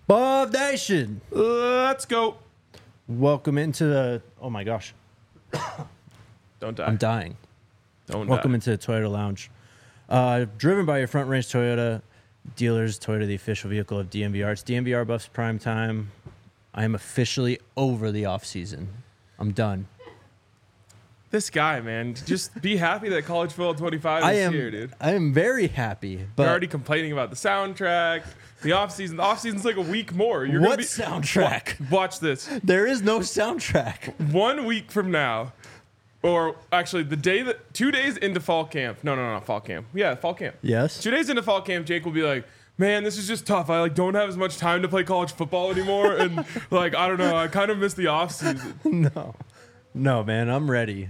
Buff Nation, Let's go. welcome into the. Oh my gosh, Don't die. I'm dying. Don't Welcome die. into the Toyota Lounge. Driven by your Front Range Toyota dealers, Toyota, the official vehicle of DMVR. It's DMVR Buffs Prime Time. I am officially over the off season. I'm done. This guy, man. Just be happy that College Football 25 is here, dude. I am very happy. But You're already complaining about the soundtrack. The offseason. The offseason's like a week more. You're what gonna be, soundtrack? Watch this. There is no soundtrack. 1 week from now, or actually the day that 2 days into fall camp. No, fall camp. Yeah, fall camp. Yes. 2 days into fall camp, Jake will be like, man, this is just tough. I don't have as much time to play college football anymore. And I don't know. I kind of miss the offseason. No, man. I'm ready.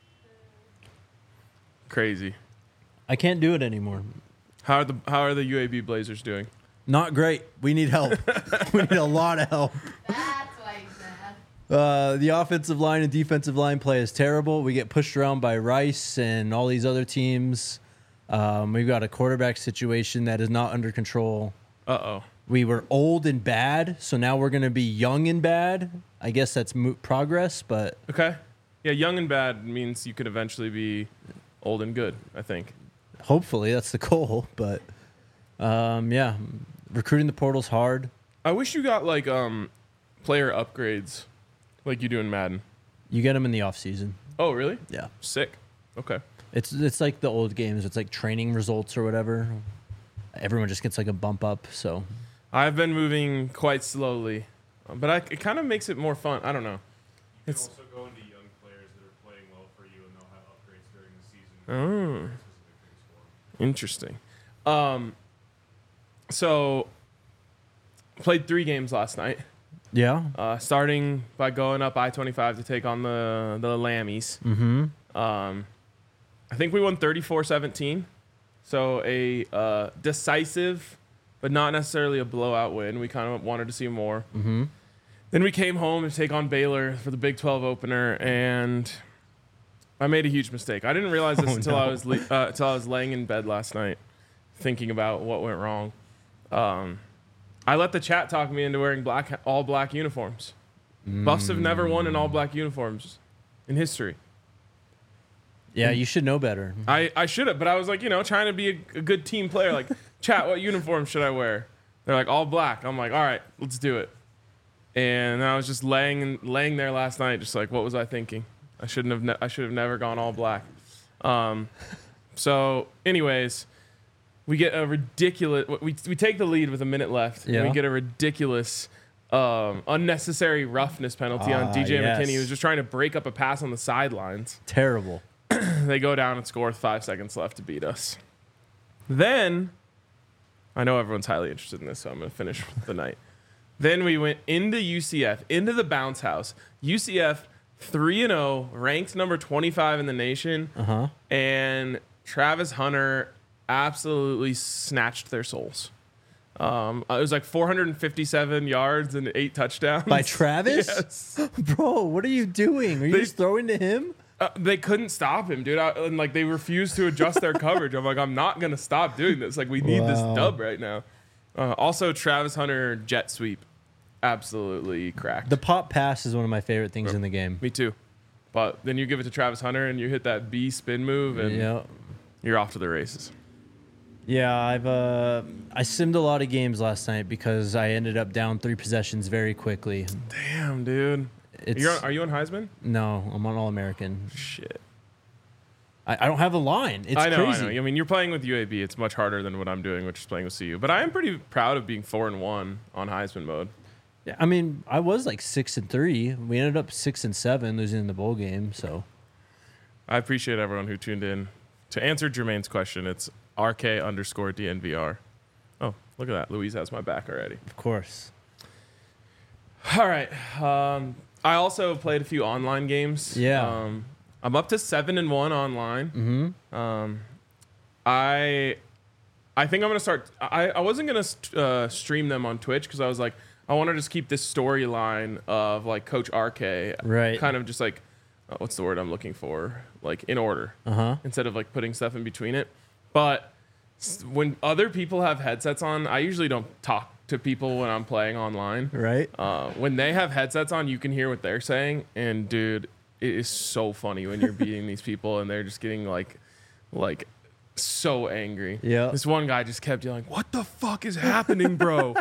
Crazy. I can't do it anymore. How are the UAB Blazers doing? Not great. We need help. We need a lot of help. That's why he's mad. The offensive line and defensive line play is terrible. We get pushed around by Rice and all these other teams. We've got a quarterback situation that is not under control. Uh-oh. We were old and bad, so now we're going to be young and bad. I guess that's progress, but Okay. Yeah, young and bad means you could eventually be old and good, I think. hopefully that's the goal. But yeah, recruiting the portal's hard. I wish you got player upgrades like you do in Madden. You get them in the off season. Oh, really? Yeah, Sick. Okay. it's like the old games. It's like training results or whatever. Everyone just gets like a bump up. So I've been moving quite slowly, but it kind of makes it more fun. I don't know. You It's can also go into young players that are playing well for you, and they'll have upgrades during the season. Oh. Specific things for them. interesting. So played 3 games last night. yeah, Starting by going up I-25 to take on the Lammies. I think we won 34-17. So a decisive, but not necessarily a blowout win. We kind of wanted to see more. Then we came home to take on Baylor for the Big 12 opener, and I made a huge mistake. I didn't realize this until I was laying in bed last night, thinking about what went wrong. I let the chat talk me into wearing all black uniforms. Buffs have never won in all black uniforms in history. yeah. You should know better. I should have, but I was like, trying to be a good team player. Like, chat, what uniform should I wear? They're like, all black. I'm like, all right, let's do it. And I was just laying there last night, just like, what was I thinking? I should have never gone all black. So, anyways, we get a ridiculous. We take the lead with a minute left, and Yeah. we get a ridiculous, unnecessary roughness penalty on DJ yes. McKinney, who's just trying to break up a pass on the sidelines. Terrible. They go down and score with 5 seconds left to beat us. Then, I know everyone's highly interested in this, so I'm going to finish the night. Then we went into UCF, into the bounce house. UCF 3-0, ranked number 25 in the nation. And Travis Hunter absolutely snatched their souls. It was like 457 yards and 8 touchdowns. By Travis? Yes. Bro, what are you doing? Are you just throwing to him? They couldn't stop him, dude. And they refused to adjust their coverage. I'm like, I'm not going to stop doing this. Like, we need this dub right now. Also, Travis Hunter jet sweep. Absolutely cracked. The pop pass is one of my favorite things in the game. Me too. But then you give it to Travis Hunter and you hit that B spin move and Yeah. you're off to the races. Yeah, I simmed a lot of games last night because I ended up down 3 possessions very quickly. Damn, dude. Are you on Heisman? No, I'm on All-American. Shit. I don't have a line. It's I know. crazy. I mean, you're playing with UAB. It's much harder than what I'm doing, which is playing with CU. But I am pretty proud of being 4-1 on Heisman mode. Yeah, I mean, I was like 6-3. We ended up 6-7, losing in the bowl game. So I appreciate everyone who tuned in. To answer Jermaine's question, it's RK_DNVR. Oh, look at that. Louise has my back already. of course, All right. I also played a few online games. Yeah. I'm up to 7-1 online. I think I'm gonna start. I wasn't gonna stream them on Twitch because I was like, I want to just keep this storyline of like Coach RK, Right. Kind of just like, what's the word I'm looking for? Like in order, instead of like putting stuff in between it. But when other people have headsets on, I usually don't talk to to people when I'm playing online. Right? When they have headsets on, you can hear what they're saying, and dude, it is so funny when you're beating these people and they're just getting like so angry. Yeah. This one guy just kept yelling, "What the fuck is happening, bro?"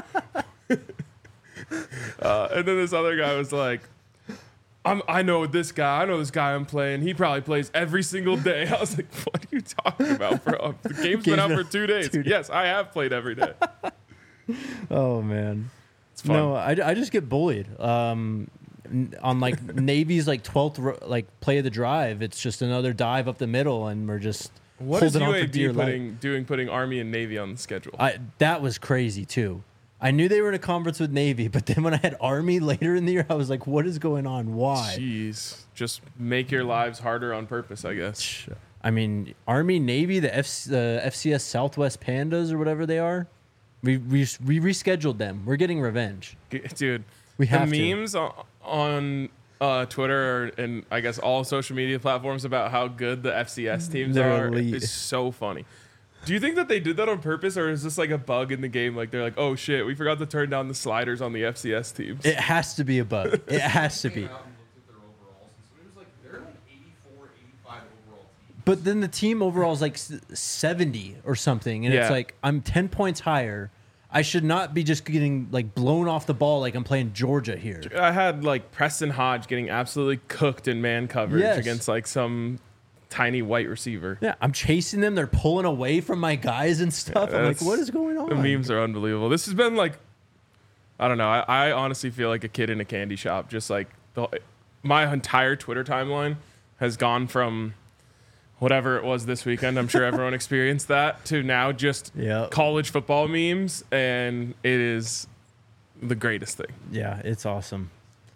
And then this other guy was like, I know this guy I'm playing. He probably plays every single day. I was like, what are you talking about, bro? The game's been out for 2 days. Yes, I have played every day. Oh, man. It's fun. No, I just get bullied. On like Navy's like 12th like play of the drive. It's just another dive up the middle, and we're just What is holding on for dear UAB life. putting Army and Navy on the schedule? That was crazy too. I knew they were in a conference with Navy, but then when I had Army later in the year, I was like, what is going on? Why? Jeez. Just make your lives harder on purpose, I guess. I mean, Army, Navy, the FCS Southwest Pandas or whatever they are, we rescheduled them. We're getting revenge. Dude, We have the to. memes on Twitter and I guess all social media platforms about how good the FCS teams They're are elite. is so funny. Do you think that they did that on purpose, or is this like a bug in the game? Like they're like, oh shit, we forgot to turn down the sliders on the FCS teams. It has to be a bug. It has to be. Came out and looked at their overalls, and so it was like they're like 84, 85 overall team. But then the team overall is like 70 or something, and Yeah. it's like I'm 10 points higher. I should not be just getting like blown off the ball like I'm playing Georgia here. I had like Preston Hodge getting absolutely cooked in man coverage Yes. against like some tiny white receiver. Yeah, I'm chasing them. They're pulling away from my guys and stuff. I'm like, That's- what is going on? The memes are unbelievable. This has been like, I don't know. I honestly feel like a kid in a candy shop. Just like my entire Twitter timeline has gone from whatever it was this weekend. I'm sure everyone experienced that to now just Yep. college football memes, and it is the greatest thing. Yeah, it's awesome.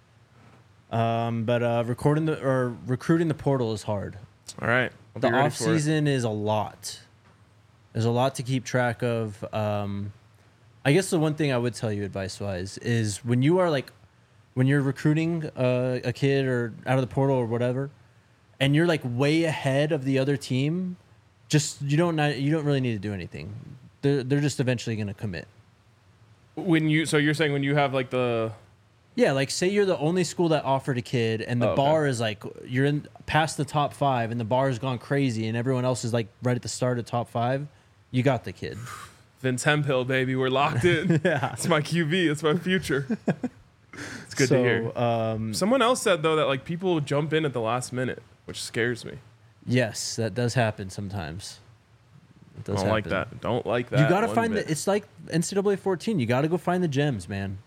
But recruiting the portal is hard. All right, I'll The be ready off for it. season is a lot. There's a lot to keep track of. I guess the one thing I would tell you advice wise is when you're recruiting a kid or out of the portal or whatever, and you're like way ahead of the other team, just you don't really need to do anything. They're just eventually going to commit. So you're saying when you have like the Yeah, like say you're the only school that offered a kid, and the Oh, okay. bar is like you're in past the top 5, and the bar has gone crazy, and everyone else is like right at the start of top 5. You got the kid. Vince Hemphill, baby, we're locked in. Yeah. It's my QB. It's my future. It's good to hear. Someone else said though that like people jump in at the last minute, which scares me. Yes, that does happen sometimes. It does Don't like happen. that. Don't like that. You got to one find bit. it's like NCAA 14. You got to go find the gems, man.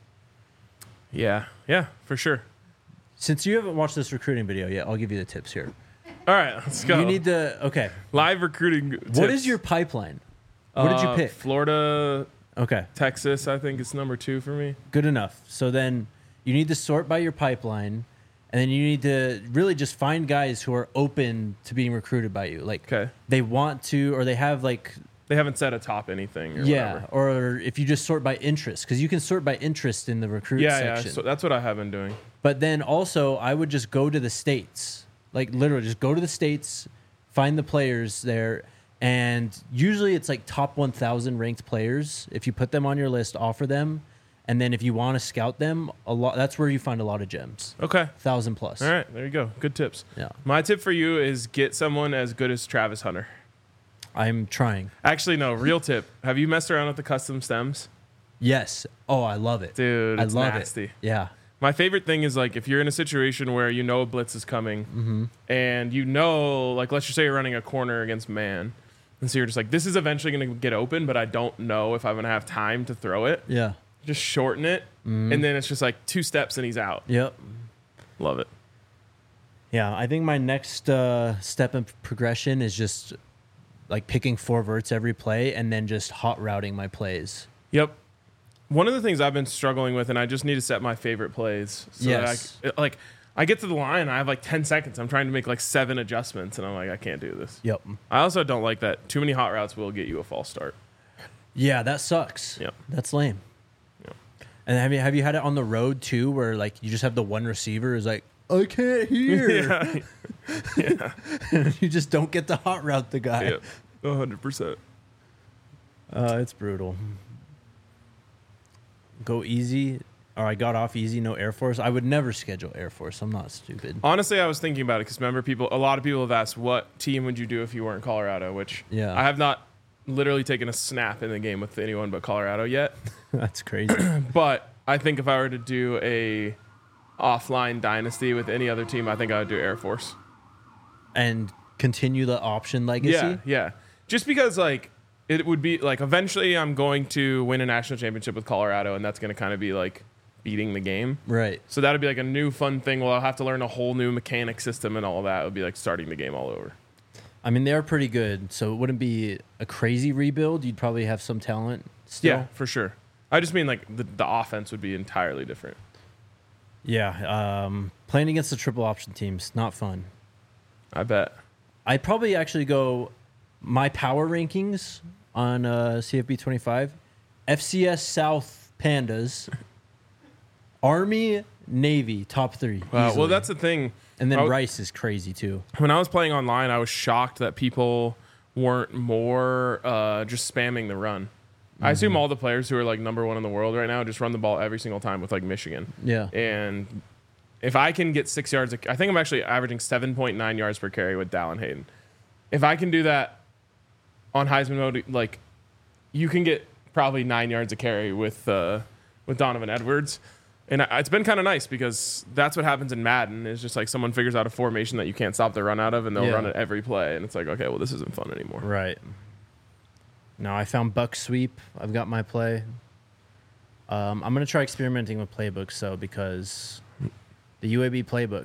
Yeah, for sure. Since you haven't watched this recruiting video yet, I'll give you the tips here. All right, let's go. You need to okay. live recruiting. Tips. What is your pipeline? What did you pick? Florida, Okay. Texas. I think it's number 2 for me. Good enough. So then you need to sort by your pipeline, and then you need to really just find guys who are open to being recruited by you. Like Okay. they want to, or they have like, They haven't set atop anything. Or yeah, whatever. or if you just sort by interest, because you can sort by interest in the recruit Yeah. section. So that's what I have been doing. But then also, I would just go to the states, like literally just go to the states, find the players there. And usually it's like top 1,000 ranked players. If you put them on your list, offer them. And then if you want to scout them, that's where you find a lot of gems. Okay. 1,000 plus. All right. There you go. Good tips. Yeah. My tip for you is get someone as good as Travis Hunter. I'm trying. Actually, no. Real tip. Have you messed around with the custom stems? Yes. Oh, I love it. Dude, I it's love nasty. it. Yeah. My favorite thing is like if you're in a situation where you know a blitz is coming and you know, like let's just say you're running a corner against man. And so you're just like, this is eventually going to get open, but I don't know if I'm going to have time to throw it. Yeah. Just shorten it. And then it's just like 2 steps and he's out. Yep. Love it. Yeah. I think my next step in progression is just like picking 4 verts every play and then just hot routing my plays. Yep. One of the things I've been struggling with, and I just need to set my favorite plays. So Yes. that I get to the line, I have like 10 seconds. I'm trying to make like 7 adjustments, and I'm like, I can't do this. Yep. I also don't like that. Too many hot routes will get you a false start. Yeah, that sucks. Yep. That's lame. Yep. And have you had it on the road too, where like you just have the one receiver who's like, I can't hear. Yeah. You just don't get the hot route the guy. Yep. 100%. It's brutal. go easy, or I got off easy, no Air Force, I would never schedule Air Force. I'm not stupid. Honestly, I was thinking about it because remember, a lot of people have asked, what team would you do if you weren't Colorado? Which Yeah. I have not literally taken a snap in the game with anyone but Colorado yet. That's crazy. But I think if I were to do a offline dynasty with any other team, I think I would do Air Force. And continue the option legacy. Yeah, yeah. Just because like it would be like eventually I'm going to win a national championship with Colorado, and that's going to kind of be like beating the game. Right. So that would be like a new fun thing. Well, I'll have to learn a whole new mechanic system and all of that. It would be like starting the game all over. I mean, they're pretty good, so it wouldn't be a crazy rebuild. You'd probably have some talent still. Yeah, for sure. I just mean like the offense would be entirely different. Yeah. Playing against the triple option teams, not fun. I bet. I'd probably actually go my power rankings on CFB 25. FCS South Pandas. Army, Navy, top 3. Well, easily. that's the thing. And then I w- Rice is crazy too. When I was playing online, I was shocked that people weren't more just spamming the run. I assume all the players who are like number 1 in the world right now just run the ball every single time with like Michigan. Yeah. And if I can get 6 yards, I think I'm actually averaging 7.9 yards per carry with Dallin Hayden. If I can do that on Heisman mode, like you can get probably 9 yards a carry with Donovan Edwards. And it's been kind of nice because that's what happens in Madden is just like someone figures out a formation that you can't stop the run out of and they'll run it every play. And it's like, okay, well, this isn't fun anymore. Right. Now I found Buck Sweep. I've got my play. I'm going to try experimenting with playbooks, though, because the UAB playbook,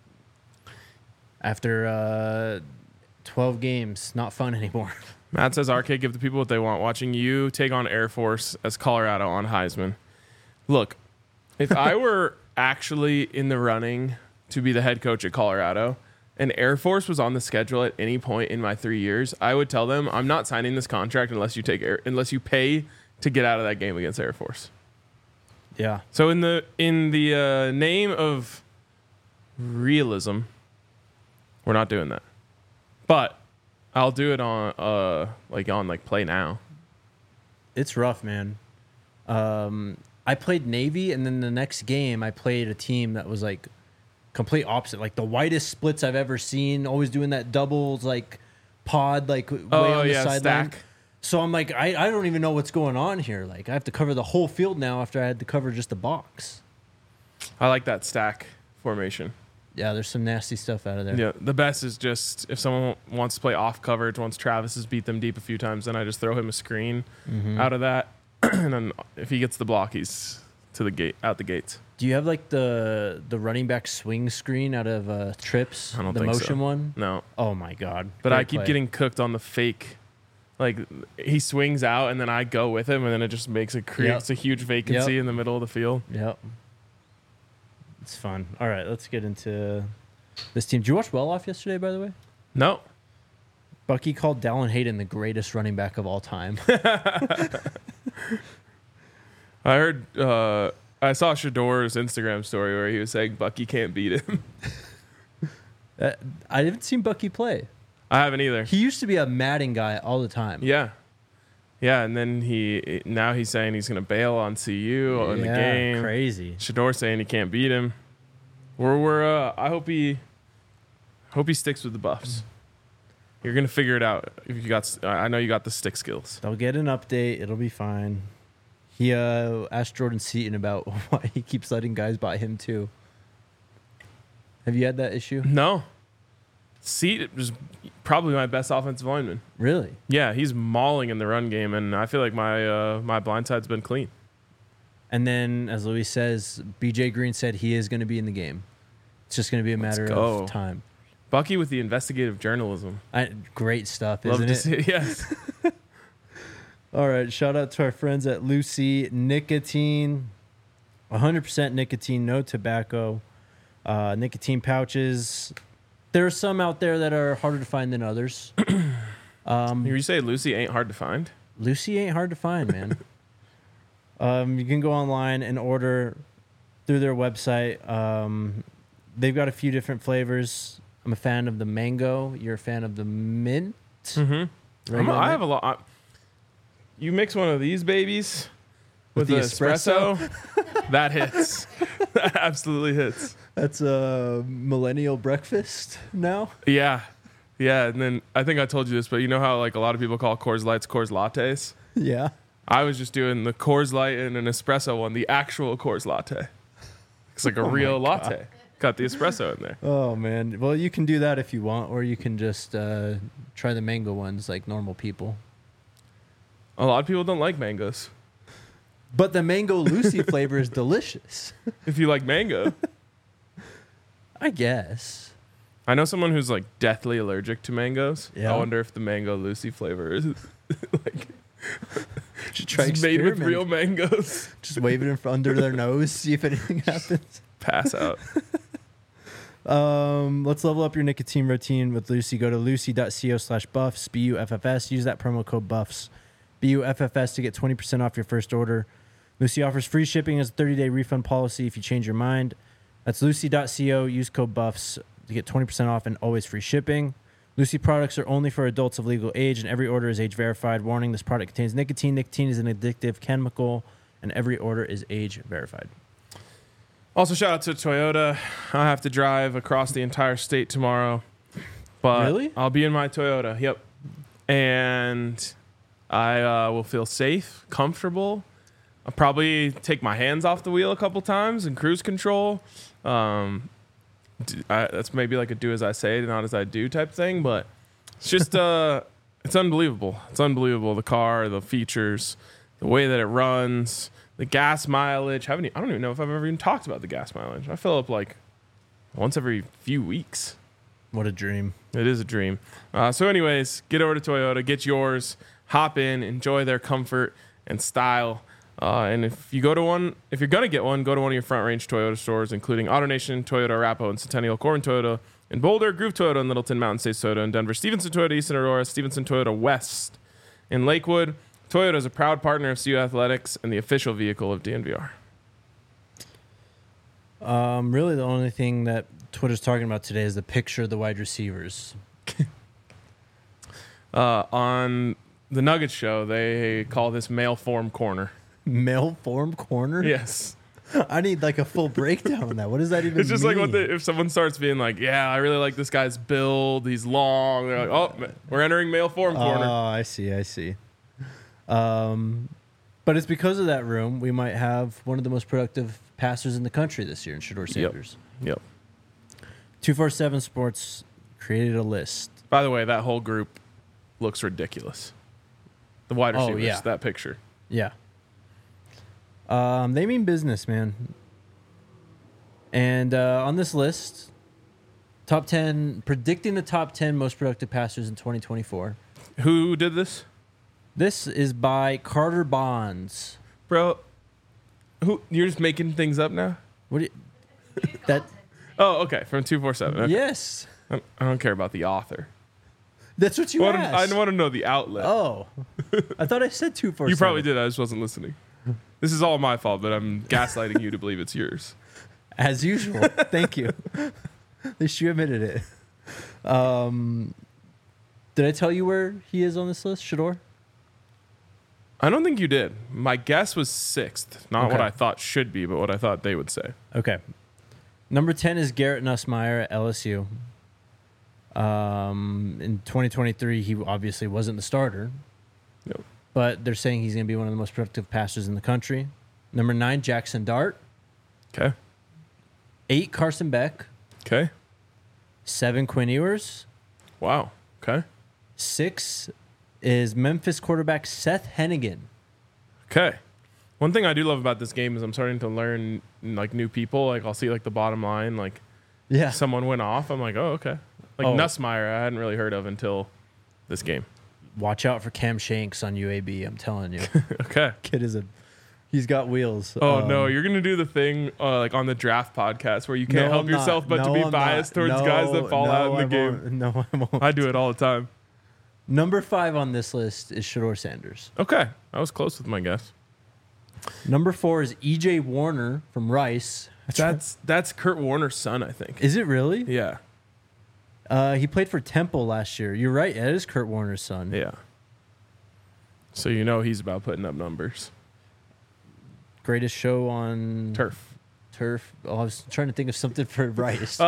after 12 games, not fun anymore. Matt says, RK, give the people what they want. Watching you take on Air Force as Colorado on Heisman. Look, if I were actually in the running to be the head coach at Colorado and Air Force was on the schedule at any point in my 3 years, I would tell them, I'm not signing this contract unless you pay to get out of that game against Air Force. Yeah. So in the name of realism, we're not doing that. But I'll do it on Play Now. It's rough, man. I played Navy, and then the next game I played a team that was like complete opposite, like the widest splits I've ever seen. Always doing that doubles, like pod, like way on the sideline. Stack. So I'm like, I don't even know what's going on here. Like I have to cover the whole field now after I had to cover just the box. I like that stack formation. Yeah, there's some nasty stuff out of there. Yeah, the best is just if someone wants to play off coverage, once Travis has beat them deep a few times, then I just throw him a screen out of that. And then if he gets the block, he's to the gate, out the gates. Do you have like the running back swing screen out of Trips? I don't the think so. motion one? No. Oh my god. But Great I keep play. getting cooked on the fake. Like he swings out and then I go with him and then it just creates a huge vacancy in the middle of the field. Yep. It's fun. All right, let's get into this team. Did you watch Well Off yesterday, by the way? No. Bucky called Dallin Hayden the greatest running back of all time. I heard I saw Shador's Instagram story where he was saying Bucky can't beat him. I haven't seen Bucky play. I haven't either. He used to be a Madden guy all the time. Yeah. Yeah, and then he's saying he's going to bail on CU in the game. Crazy. Shador saying he can't beat him. I hope he sticks with the Buffs. You're going to figure it out if you got I know you got the stick skills. They'll get an update. It'll be fine. He asked Jordan Seaton about why he keeps letting guys buy him too. Have you had that issue? No. Seat was probably my best offensive lineman. Really? Yeah, he's mauling in the run game, and I feel like my blind side's been clean. And then, as Luis says, BJ Green said he is going to be in the game. It's just going to be a matter of time. Bucky with the investigative journalism. Great stuff, Love isn't to it? see it. Yes. All right, shout out to our friends at Lucy Nicotine. 100% nicotine, no tobacco. Nicotine pouches. There are some out there that are harder to find than others. You say Lucy ain't hard to find? Lucy ain't hard to find, man. You can go online and order through their website. They've got a few different flavors. I'm a fan of the mango. You're a fan of the mint. Mm-hmm. I have a lot. You mix one of these babies with the the espresso, that hits. That absolutely hits. That's a millennial breakfast now. Yeah. Yeah. And then I think I told you this, but you know how like a lot of people call Coors Lights Coors Lattes? Yeah. I was just doing the Coors Light and an espresso one, the actual Coors Latte. It's like a real latte. Got the espresso in there. Oh man. Well, you can do that if you want, or you can just try the mango ones like normal people. A lot of people don't like mangoes. But the mango Lucy flavor is delicious. If you like mango. I guess. I know someone who's like deathly allergic to mangoes. Yeah. I wonder if the mango Lucy flavor is like Just try it's made with experiment. real mangoes. Just wave it under their nose, see if anything happens. Pass out. Let's level up your nicotine routine with Lucy. Go to lucy.co/buffs, BUFFS. Use that promo code BUFFS, BUFFS, to get 20% off your first order. Lucy offers free shipping as a 30-day refund policy if you change your mind. That's lucy.co. Use code BUFFS to get 20% off and always free shipping. Lucy products are only for adults of legal age, and every order is age verified. Warning, this product contains nicotine. Nicotine is an addictive chemical, and every order is age verified. Also, shout out to Toyota. I have to drive across the entire state tomorrow. But Really? I'll be in my Toyota. Yep. And I will feel safe, comfortable. I'll probably take my hands off the wheel a couple times and cruise control. That's maybe like a do as I say, not as I do type thing. But it's just, it's unbelievable. It's unbelievable. The car, the features, the way that it runs. The gas mileage. I don't even know if I've ever even talked about the gas mileage. I fill up like once every few weeks. What a dream. It is a dream. So anyways, get over to Toyota, get yours, hop in, enjoy their comfort and style. And if you're going to get one, go to one of your Front Range Toyota stores, including AutoNation, Toyota Arapahoe and Centennial, Corbin Toyota in Boulder, Groove Toyota in Littleton, Mountain States Toyota in Denver, Stevenson Toyota East in Aurora, Stevenson Toyota West in Lakewood. Toyota is a proud partner of CU Athletics and the official vehicle of DNVR. Really, the only thing that Twitter's talking about today is the picture of the wide receivers. On the Nuggets show, they call this male form corner. Male form corner? Yes. I need like a full breakdown on that. What does that even mean? It's just like if someone starts being like, yeah, I really like this guy's build. He's long. They're like, oh, we're entering male form corner. Oh, I see. But it's because of that room we might have one of the most productive passers in the country this year in Shedeur Sanders. Yep. 247 Sports created a list. By the way, that whole group looks ridiculous. The wide receivers, yeah. that picture. Yeah. They mean business, man. And on this list, top 10, predicting the top 10 most productive passers in 2024. Who did this? This is by Carter Bonds. Bro, you're just making things up now? What do you, that? Oh, okay, from 247. Okay. Yes. I don't care about the author. That's what you asked. I want to know the outlet. Oh. I thought I said 247. You probably did. I just wasn't listening. This is all my fault, but I'm gaslighting you to believe it's yours. As usual. Thank you. At least you admitted it. Did I tell you where he is on this list, Shedeur? I don't think you did. My guess was 6th. Not Okay. what I thought should be, but what I thought they would say. Okay. Number 10 is Garrett Nussmeier at LSU. In 2023, he obviously wasn't the starter. Yep. But they're saying he's going to be one of the most productive passers in the country. Number 9, Jackson Dart. Okay. 8, Carson Beck. Okay. 7, Quinn Ewers. Wow. Okay. 6 is Memphis quarterback Seth Hennigan. Okay. One thing I do love about this game is I'm starting to learn like new people. Like I'll see like the bottom line, like Yeah. someone went off. I'm like, oh, okay. Like Oh. Nussmeier, I hadn't really heard of until this game. Watch out for Cam Shanks on UAB, I'm telling you. Okay. Kid he's got wheels. Oh no, you're gonna do the thing like on the draft podcast where you can't help yourself but to be biased towards guys that fall out in the game. No, I won't. I do it all the time. Number 5 on this list is Shedeur Sanders. Okay, I was close with my guess. Number 4 is EJ Warner from Rice. That's Kurt Warner's son, I think. Is it really? Yeah, He played for Temple last year. You're right. That is Kurt Warner's son. yeah. So you know he's about putting up numbers. greatest show on Turf. Turf. Oh, I was trying to think of something for Rice.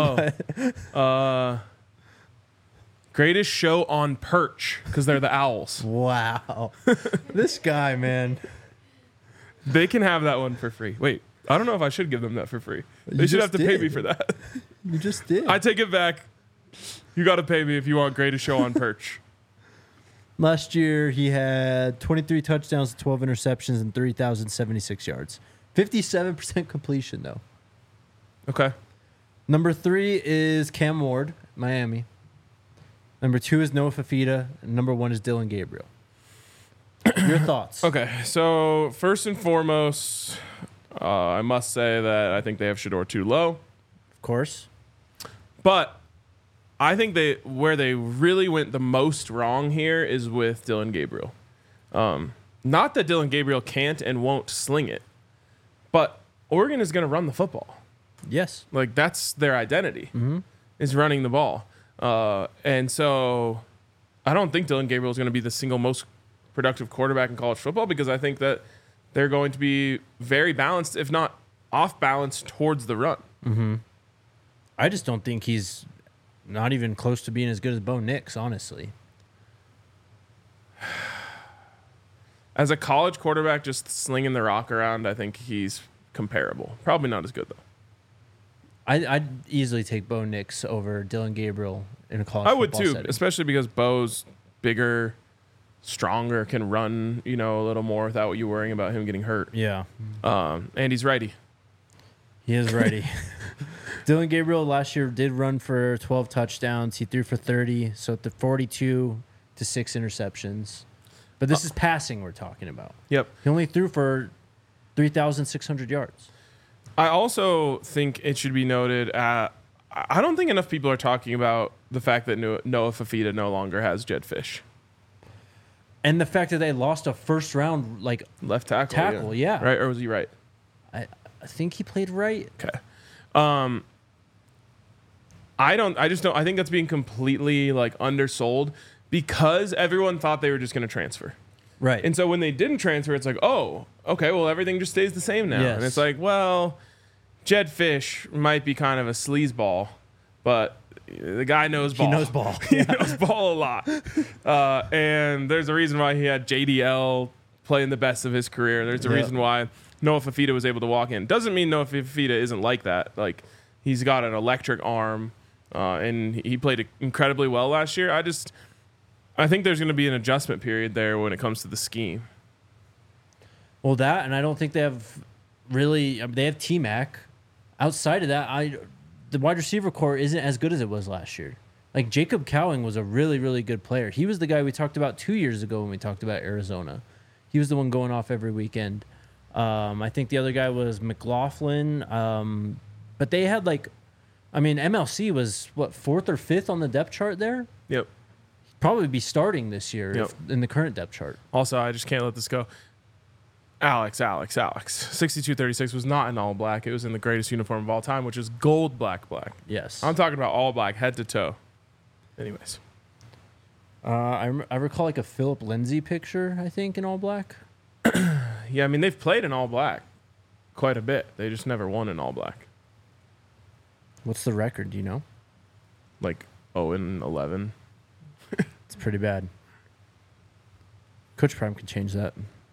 Greatest show on Perch because they're the Owls. Wow. This guy, man. They can have that one for free. Wait, I don't know if I should give them that for free. They You should have just to pay did. me for that. You just did. I take it back. You got to pay me if you want greatest show on Perch. Last year, he had 23 touchdowns, 12 interceptions, and 3,076 yards. 57% completion, though. Okay. Number 3 is Cam Ward, Miami. Number 2 is Noah Fafita. And number 1 is Dylan Gabriel. Your thoughts? Okay. So first and foremost, I must say that I think they have Shador too low. Of course. But I think where they really went the most wrong here is with Dylan Gabriel. Not that Dylan Gabriel can't and won't sling it, but Oregon is going to run the football. Yes. Like that's their identity is running the ball. And so I don't think Dylan Gabriel is going to be the single most productive quarterback in college football because I think that they're going to be very balanced, if not off balance, towards the run. I just don't think he's not even close to being as good as Bo Nix, honestly. As a college quarterback, just slinging the rock around, I think he's comparable. Probably not as good, though. I'd easily take Bo Nix over Dylan Gabriel in a college I would football too, setting. especially because Bo's bigger, stronger, can run, a little more without you worrying about him getting hurt. Yeah. And he's righty. He is ready. Dylan Gabriel last year did run for 12 touchdowns. He threw for 30, so the 42 to 6 interceptions. But this is passing we're talking about. Yep. He only threw for 3,600 yards. I also think it should be noted, I don't think enough people are talking about the fact that Noah Fafita no longer has Jed Fish. And the fact that they lost a first round, Left tackle. Tackle, yeah. Right? Or was he right? I think he played right. Okay. I think that's being completely undersold because everyone thought they were just going to transfer. Right. And so when they didn't transfer, it's like, oh, okay, well, everything just stays the same now. Yes. And it's like, well, Jed Fish might be kind of a sleazeball, but the guy knows ball. He knows ball. He knows ball a lot. And there's a reason why he had JDL playing the best of his career. There's a reason why Noah Fafita was able to walk in. Doesn't mean Noah Fafita isn't like that. Like, he's got an electric arm, and he played incredibly well last year. I think there's going to be an adjustment period there when it comes to the scheme. Well, that, and I don't think they have really. They have T-Mac. Outside of that, the wide receiver core isn't as good as it was last year. Like, Jacob Cowing was a really, really good player. He was the guy we talked about 2 years ago when we talked about Arizona. He was the one going off every weekend. I think the other guy was McLaughlin. But they had MLC was, 4th or 5th on the depth chart there? Yep. Probably be starting this year Yep. in the current depth chart. Also, I just can't let this go. Alex. 6236 was not in all black. It was in the greatest uniform of all time, which is gold black. Yes. I'm talking about all black, head to toe. Anyways. I recall a Philip Lindsay picture, I think, in all black. Yeah, I mean, they've played in all black quite a bit. They just never won in all black. What's the record? Do you know? 0-11. It's pretty bad. Coach Prime can change that.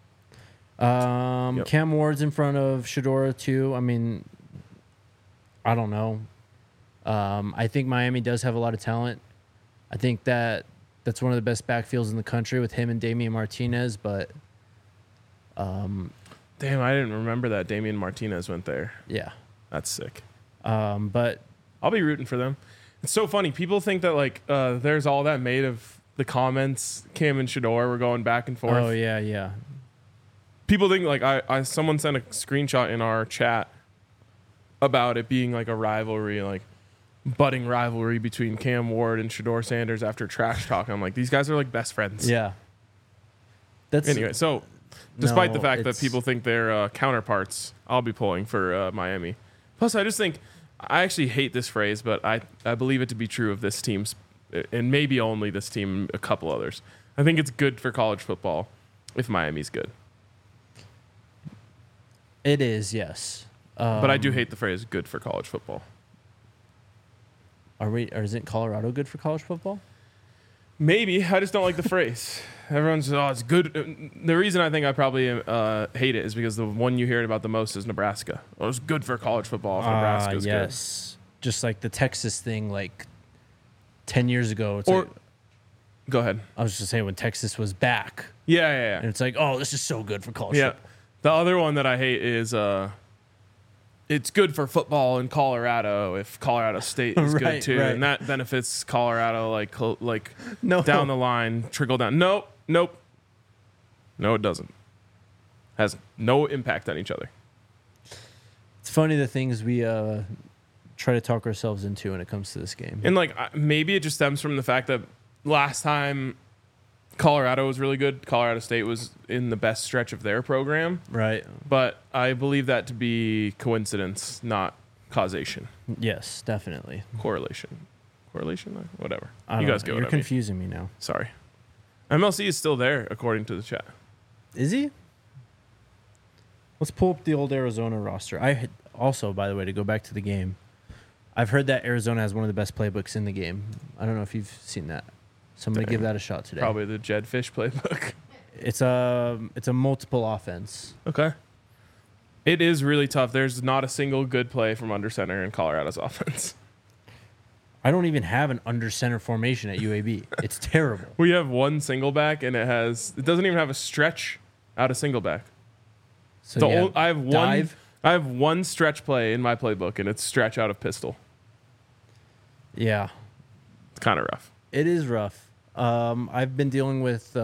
Yep. Cam Ward's in front of Shador too. I mean, I don't know. I think Miami does have a lot of talent. I think that's one of the best backfields in the country with him and Damian Martinez. But Damn, I didn't remember that Damian Martinez went there. yeah, That's sick. but I'll be rooting for them. It's so funny. People think that there's all that made of the comments. Cam and Shador were going back and forth. oh yeah. People think someone sent a screenshot in our chat about it being a rivalry, budding rivalry between Cam Ward and Shador Sanders after trash talk. I'm like, these guys are best friends. Yeah. That's Anyway, so despite the No, fact that it's- people think they're counterparts, I'll be pulling for Miami. Plus, I just think I actually hate this phrase, but I believe it to be true of this team, and maybe only this team, a couple others. I think it's good for college football if Miami's good. It is, yes. But I do hate the phrase "good for college football." Or isn't Colorado good for college football? Maybe. I just don't like the phrase. Everyone's, it's good. The reason I think I probably hate it is because the one you hear about the most is Nebraska. Oh, it's good for college football if Nebraska's yes. Just like the Texas thing, like 10 years ago. It's Or, like, go ahead. I was just saying when Texas was back. Yeah. And it's like, oh, this is so good for college Yeah. football. The other one that I hate is it's good for football in Colorado if Colorado State is good too, right. and that benefits Colorado like No. down the line, trickle down. Nope. No, it doesn't. Has no impact on each other. It's funny the things we try to talk ourselves into when it comes to this game. And maybe it just stems from the fact that last time Colorado was really good, Colorado State was in the best stretch of their program. Right. But I believe that to be coincidence, not causation. Yes, definitely. Correlation, whatever. I You don't guys know. get what You're I mean. confusing me now. Sorry. MLC is still there, according to the chat. Is he? Let's pull up the old Arizona roster. Also, by the way, to go back to the game, I've heard that Arizona has one of the best playbooks in the game. I don't know if you've seen that. So I'm going to give that a shot today. Probably the Jed Fish playbook. It's a multiple offense. Okay. It is really tough. There's not a single good play from under center in Colorado's offense. I don't even have an under center formation at UAB. It's terrible. We have one single back, and it doesn't even have a stretch out of single back. So I have one. dive. I have one stretch play in my playbook, and it's stretch out of pistol. Yeah, It's kind of rough. it is rough. I've been dealing with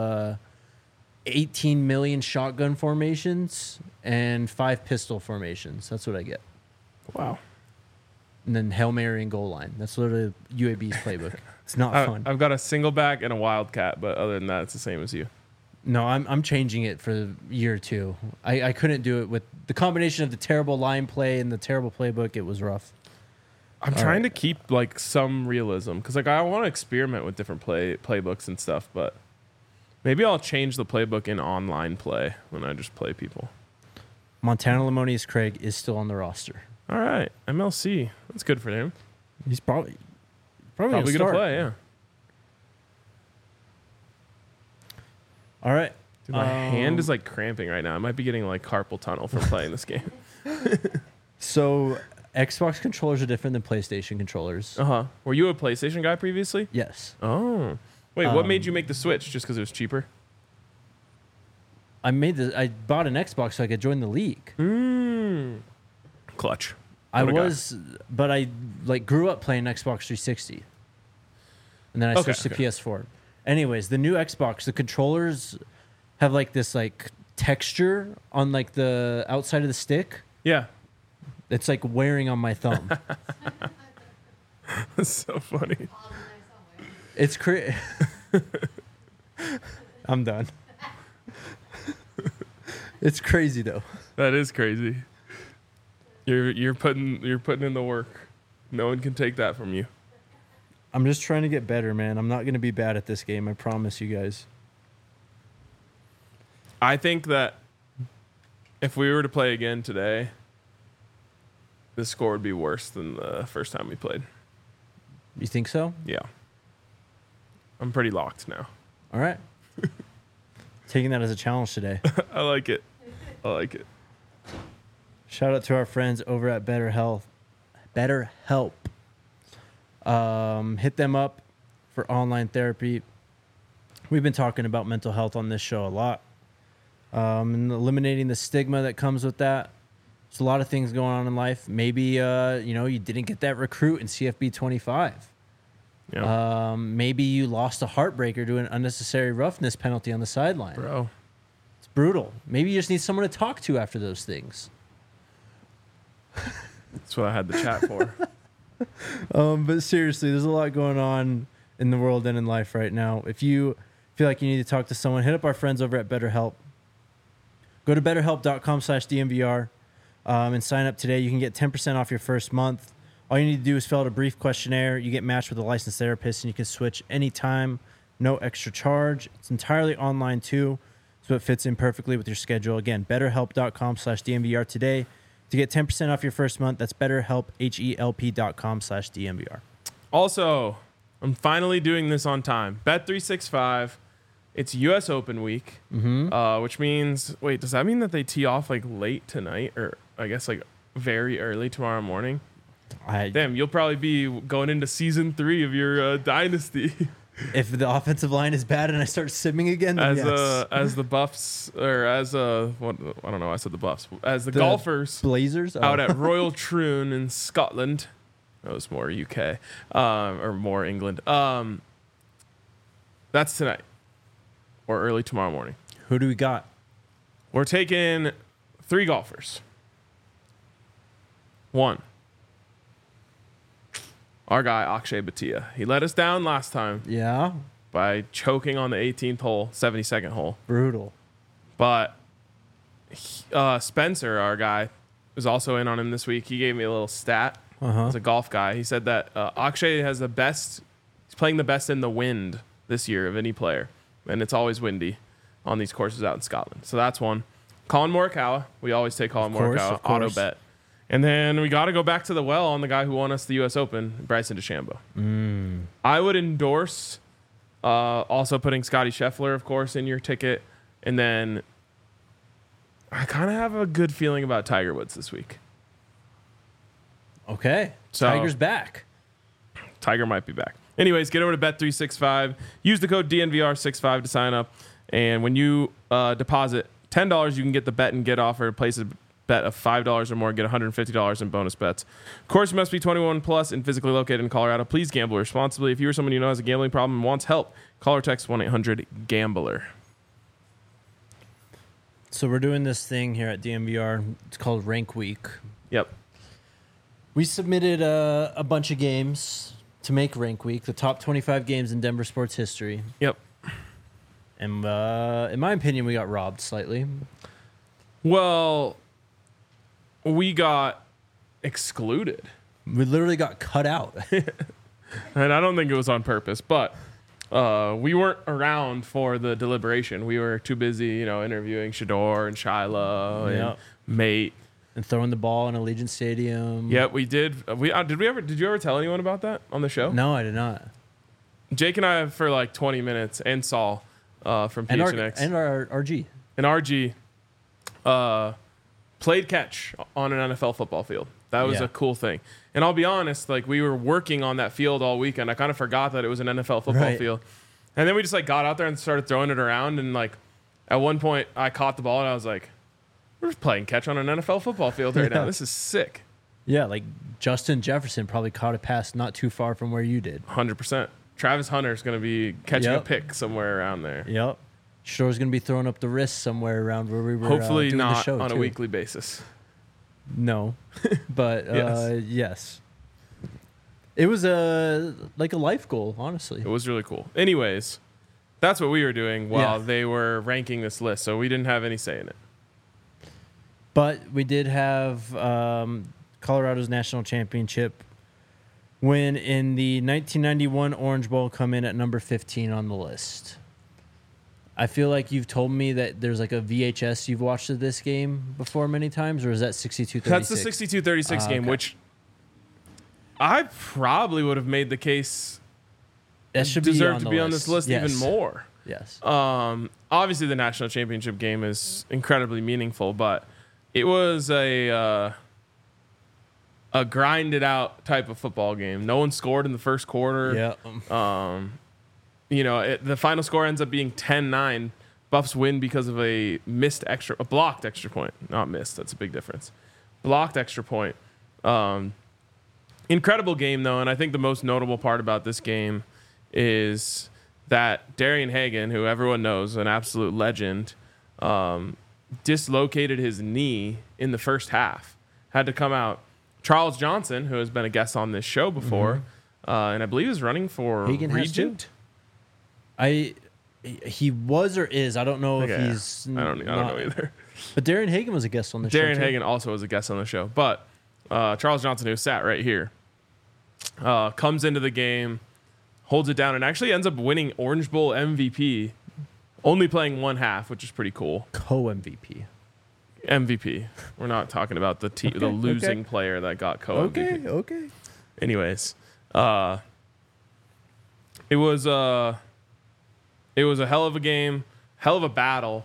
18 million shotgun formations and 5 pistol formations. That's what I get. Wow. And then Hail Mary and goal line. That's literally UAB's playbook. It's not fun. I've got a single back and a wildcat, but other than that, it's the same as you. No, I'm changing it for year 2. I couldn't do it with the combination of the terrible line play and the terrible playbook. It was rough. I'm trying to keep some realism because I want to experiment with different playbooks and stuff, but maybe I'll change the playbook in online play when I just play people. Montana Lemonius Craig is still on the roster. All right, MLC. That's good for him. He's probably Probably gonna gonna play. Yeah. All right. Dude, my hand is cramping right now. I might be getting carpal tunnel from playing this game. So Xbox controllers are different than PlayStation controllers. Were you a PlayStation guy previously? Yes. Oh. Wait, what made you make the switch? Just because it was cheaper? I bought an Xbox so I could join the league. Clutch. I What a guy. was, but I grew up playing Xbox 360, and then I switched to PS4. Anyways, the new Xbox, the controllers have this texture on the outside of the stick. Yeah. It's wearing on my thumb. That's so funny. It's crazy. I'm done. It's crazy though. That is crazy. You're putting in the work. No one can take that from you. I'm just trying to get better, man. I'm not going to be bad at this game. I promise you guys. I think that if we were to play again today, the score would be worse than the first time we played. You think so? Yeah. I'm pretty locked now. All right. Taking that as a challenge today. I like it. Shout out to our friends over at BetterHelp. Hit them up for online therapy. We've been talking about mental health on this show a lot. And eliminating the stigma that comes with that. There's a lot of things going on in life. Maybe you didn't get that recruit in CFB 25. Yeah. Maybe you lost a heartbreaker to an unnecessary roughness penalty on the sideline. Bro. It's brutal. Maybe you just need someone to talk to after those things. That's what I had the chat for. But seriously, there's a lot going on in the world and in life right now. If you feel like you need to talk to someone, hit up our friends over at BetterHelp. Go to betterhelp.com/DMVR and sign up today. You can get 10% off your first month. All you need to do is fill out a brief questionnaire. You get matched with a licensed therapist, and you can switch anytime, no extra charge. It's entirely online, too. So it fits in perfectly with your schedule. Again, betterhelp.com/DNVR today to get 10% off your first month. That's betterhelp, HELP.com/DNVR. Also, I'm finally doing this on time. Bet365, it's U.S. Open week, which means, wait, does that mean that they tee off like late tonight or I guess like very early tomorrow morning? Damn, you'll probably be going into season 3 of your dynasty. If the offensive line is bad and I start simming again, then yes. As the Buffs, or as what, I don't know, I said the Buffs. As the golfers Blazers out at Royal Troon in Scotland. That was more UK, or more England. That's tonight or early tomorrow morning. Who do we got? We're taking 3 golfers. 1. Our guy, Akshay Bhatia. He let us down last time Yeah. by choking on the 18th hole, 72nd hole. Brutal. But Spencer, our guy, was also in on him this week. He gave me a little stat. He's a golf guy. He said that Akshay has the best, he's playing the best in the wind this year of any player. And it's always windy on these courses out in Scotland. So that's one. Colin Morikawa. We always take Colin Morikawa. Auto bet. And then we got to go back to the well on the guy who won us the U.S. Open, Bryson DeChambeau. I would endorse also putting Scotty Scheffler, of course, in your ticket. And then I kind of have a good feeling about Tiger Woods this week. Okay. So, Tiger's back. Tiger might be back. Anyways, get over to Bet365. Use the code DNVR65 to sign up. And when you deposit $10, you can get the bet and get offer. Place a bet of $5 or more, get $150 in bonus bets. Of course, you must be 21 plus and physically located in Colorado. Please gamble responsibly. If you or someone you know has a gambling problem and wants help, call or text 1-800-GAMBLER. So we're doing this thing here at DNVR. It's called Rank Week. Yep. We submitted a bunch of games to make Rank Week, the top 25 games in Denver sports history. Yep. And in my opinion, we got robbed slightly. Well, we got excluded. We literally got cut out. And I don't think it was on purpose, but we weren't around for the deliberation. We were too busy, interviewing Shador and Shiloh and Mate. And throwing the ball in Allegiant Stadium. Yeah, we did. Did you ever tell anyone about that on the show? No, I did not. Jake and I, for like 20 minutes, and Saul from PHNX. And our RG. And RG played catch on an NFL football field. That was a cool thing. And I'll be honest, like we were working on that field all weekend. I kind of forgot that it was an NFL football field. And then we just like got out there and started throwing it around. And like at one point I caught the ball and I was like, we're just playing catch on an NFL football field right now. This is sick. Yeah, like Justin Jefferson probably caught a pass not too far from where you did. 100%. Travis Hunter's going to be catching a pick somewhere around there. Yep. Shador's going to be throwing up the wrist somewhere around where we were hopefully doing not the show on too. a weekly basis. No, but yes. It was like a life goal, honestly. It was really cool. Anyways, that's what we were doing while they were ranking this list, so we didn't have any say in it. But we did have Colorado's national championship win in the 1991 Orange Bowl come in at number 15 on the list. I feel like you've told me that there's like a VHS you've watched of this game before many times, or is that 62-36? That's the 62-36 game, which I probably would have made the case that should deserve to be on this list even more. Yes. Obviously, the national championship game is incredibly meaningful, but it was a grinded out type of football game. No one scored in the first quarter. Yeah. The final score ends up being 10-9. Buffs win because of a blocked extra point. Not missed. That's a big difference. Blocked extra point. Incredible game, though, and I think the most notable part about this game is that Darian Hagan, who everyone knows, an absolute legend, dislocated his knee in the first half. Had to come out. Charles Johnson, who has been a guest on this show before, and I believe is running for Hagan Regent. He was or is. I don't know if he's. I don't know either. But Darian Hagan was a guest on the show. Darian Hagan also was a guest on the show. But Charles Johnson, who sat right here, comes into the game, holds it down, and actually ends up winning Orange Bowl MVP only playing one half, which is pretty cool. Co-MVP. MVP. We're not talking about the the losing player that got co-MVP. Okay. Anyways, it was a hell of a game, hell of a battle,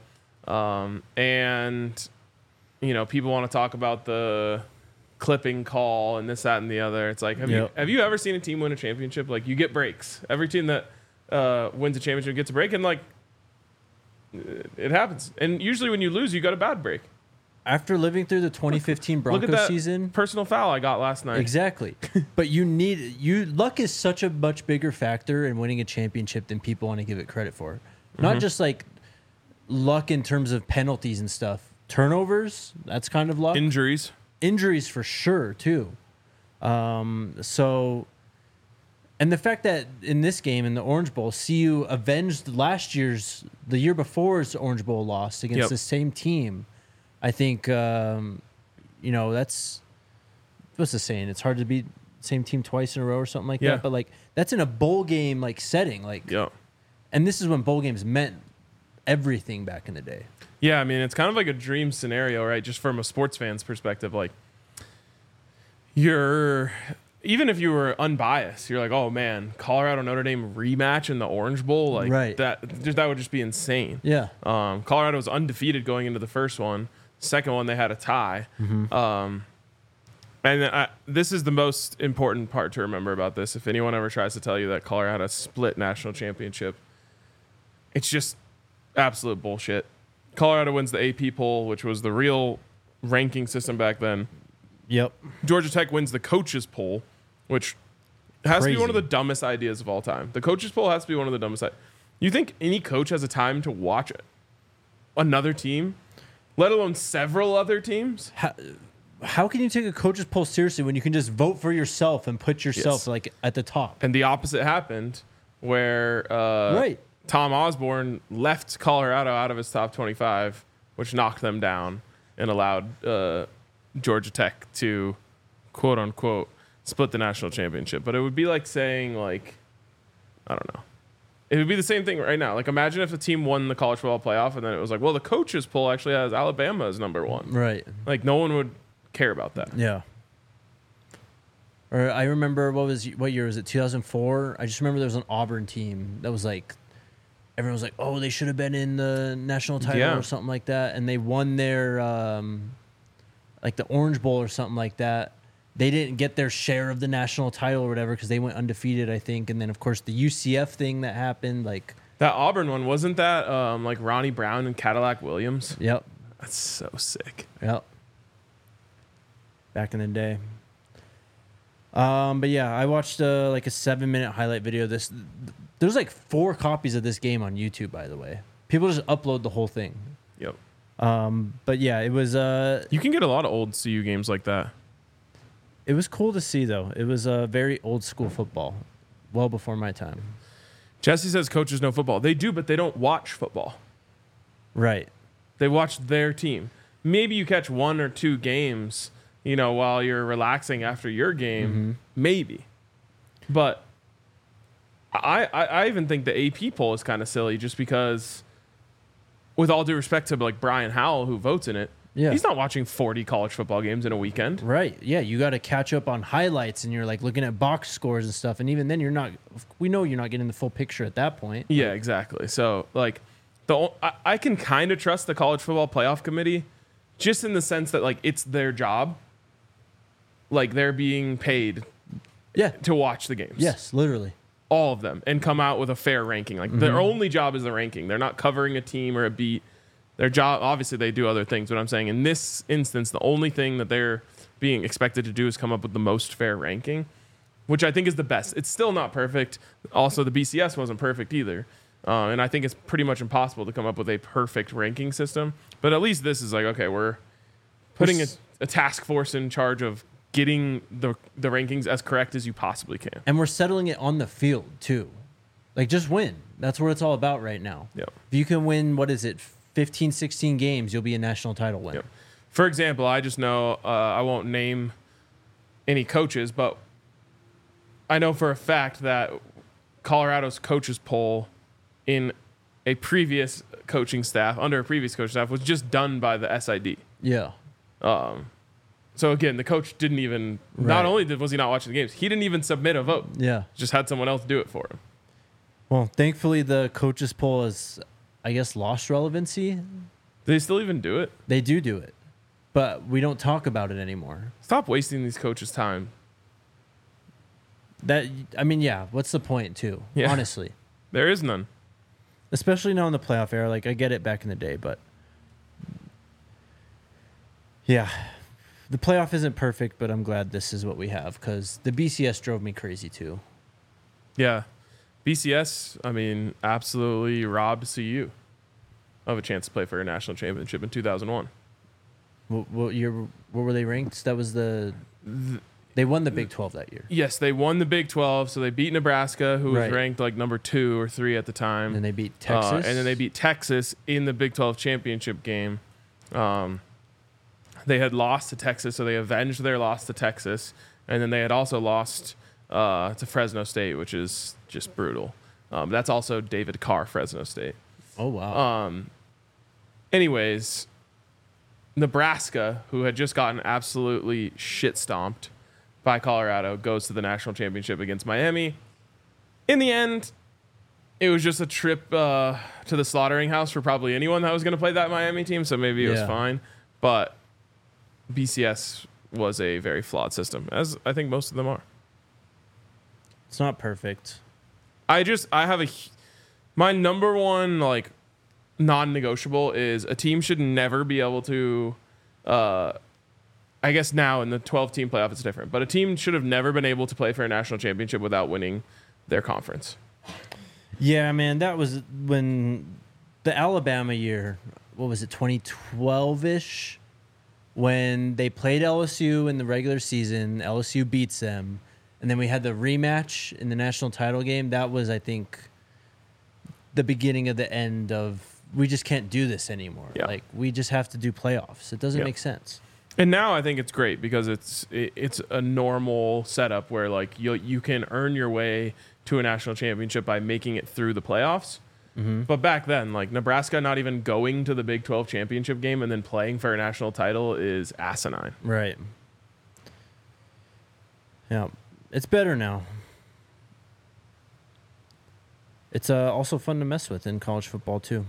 and people want to talk about the clipping call and this, that, and the other. It's like, have you ever seen a team win a championship? Like, you get breaks. Every team that wins a championship gets a break, and like it happens. And usually when you lose, you got a bad break. After living through the 2015 Look at Broncos that season, personal foul I got last night. exactly. But luck is such a much bigger factor in winning a championship than people want to give it credit for. Not just like luck in terms of penalties and stuff. Turnovers, that's kind of luck. Injuries Injuries for sure too. And the fact that in this game, in the Orange Bowl, CU avenged the year before's Orange Bowl loss against the same team. I think, that's, what's the saying? It's hard to beat the same team twice in a row or something like that. But like, that's in a bowl game like setting. Like, and this is when bowl games meant everything back in the day. Yeah, I mean, it's kind of like a dream scenario, right? Just from a sports fan's perspective, like even if you were unbiased, you're like, oh man, Colorado Notre Dame rematch in the Orange Bowl, like that would just be insane. Yeah. Colorado was undefeated going into the first one. Second one, they had a tie. And this is the most important part to remember about this. If anyone ever tries to tell you that Colorado split national championship, it's just absolute bullshit. Colorado wins the AP poll, which was the real ranking system back then. Yep. Georgia Tech wins the coaches poll, which has to be one of the dumbest ideas of all time. The coaches poll has to be one of the dumbest. You think any coach has a time to watch another team, let alone several other teams? How can you take a coaches poll seriously when you can just vote for yourself and put yourself like at the top? And the opposite happened, where Tom Osborne left Colorado out of his top 25, which knocked them down and allowed Georgia Tech to, quote unquote, split the national championship. But it would be like saying, like, I don't know. It would be the same thing right now. Like, imagine if a team won the college football playoff and then it was like, well, the coaches poll actually has Alabama as number one. Right. Like, no one would care about that. Yeah. Or I remember, what year was it? 2004? I just remember there was an Auburn team that was like, everyone was like, oh, they should have been in the national title or something like that. And they won their, like the Orange Bowl or something like that. They didn't get their share of the national title or whatever because they went undefeated, I think. And then, of course, the UCF thing that happened. Like that Auburn one, wasn't that like Ronnie Brown and Cadillac Williams? Yep. That's so sick. Yep. Back in the day. But yeah, I watched like a 7-minute highlight video. There's like 4 copies of this game on YouTube, by the way. People just upload the whole thing. Yep. But yeah, it was. You can get a lot of old CU games like that. It was cool to see, though. It was very old school football, well before my time. Jesse says coaches know football. They do, but they don't watch football. Right. They watch their team. Maybe you catch 1 or 2 games, while you're relaxing after your game. Maybe. But I even think the AP poll is kind of silly just because, with all due respect to like Brian Howell, who votes in it, he's not watching 40 college football games in a weekend. Right. Yeah, you got to catch up on highlights and you're like looking at box scores and stuff. And even then we know you're not getting the full picture at that point. Yeah, exactly. So like I can kind of trust the college football playoff committee just in the sense that like it's their job. Like they're being paid to watch the games. Yes, literally. All of them, and come out with a fair ranking. Like their only job is the ranking. They're not covering a team or a beat. Their job, obviously, they do other things. But I'm saying in this instance, the only thing that they're being expected to do is come up with the most fair ranking, which I think is the best. It's still not perfect. Also, the BCS wasn't perfect either. And I think it's pretty much impossible to come up with a perfect ranking system. But at least this is like, okay, we're putting a task force in charge of getting the rankings as correct as you possibly can. And we're settling it on the field, too. Like, just win. That's what it's all about right now. Yep. If you can win, 15, 16 games, you'll be a national title winner. Yep. For example, I just know, I won't name any coaches, but I know for a fact that Colorado's coaches poll in a previous coaching staff was just done by the SID. Yeah. So again, the coach didn't even. Not only was he not watching the games, he didn't even submit a vote. Yeah. Just had someone else do it for him. Well, thankfully the coaches poll has, I guess, lost relevancy. Do they still even do it? They do it, but we don't talk about it anymore. Stop wasting these coaches' time. What's the point too? Yeah. Honestly, There is none. especially now in the playoff era. Like, I get it back in the day, but yeah, the playoff isn't perfect. But I'm glad this is what we have, because the BCS drove me crazy too. Yeah. BCS, absolutely robbed CU of a chance to play for a national championship in 2001. What year? What were they ranked? That was they won the Big 12 that year. Yes, they won the Big 12, so they beat Nebraska, who was Right. ranked like number 2 or 3 at the time. And then they beat Texas. And then they beat Texas in the Big 12 championship game. They had lost to Texas, so they avenged their loss to Texas. And then they had also lost to Fresno State, which is just brutal. That's also David Carr, Fresno State. Oh, wow. Anyways, Nebraska, who had just gotten absolutely shit stomped by Colorado, goes to the national championship against Miami. In the end, it was just a trip to the slaughtering house for probably anyone that was going to play that Miami team, so maybe it was fine. But BCS was a very flawed system, as I think most of them are. It's not perfect. My number one non-negotiable is a team should never be able to. I guess now in the 12-team playoff it's different, but a team should have never been able to play for a national championship without winning their conference. Yeah, man, that was when the Alabama year. What was it, 2012-ish? When they played LSU in the regular season, LSU beats them. And then we had the rematch in the national title game. That was, I think, the beginning of the end of, we just can't do this anymore. Yeah. Like, we just have to do playoffs. It doesn't make sense. And now I think it's great because it's a normal setup where you can earn your way to a national championship by making it through the playoffs. Mm-hmm. But back then, Nebraska not even going to the Big 12 championship game and then playing for a national title is asinine. Right. Yeah. It's better now. It's also fun to mess with in college football, too.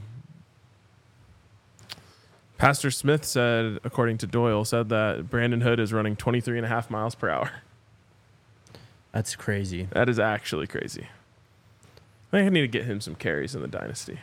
Pastor Smith said, according to Doyle, that Brandon Hood is running 23.5 miles per hour. That's crazy. That is actually crazy. I think I need to get him some carries in the dynasty.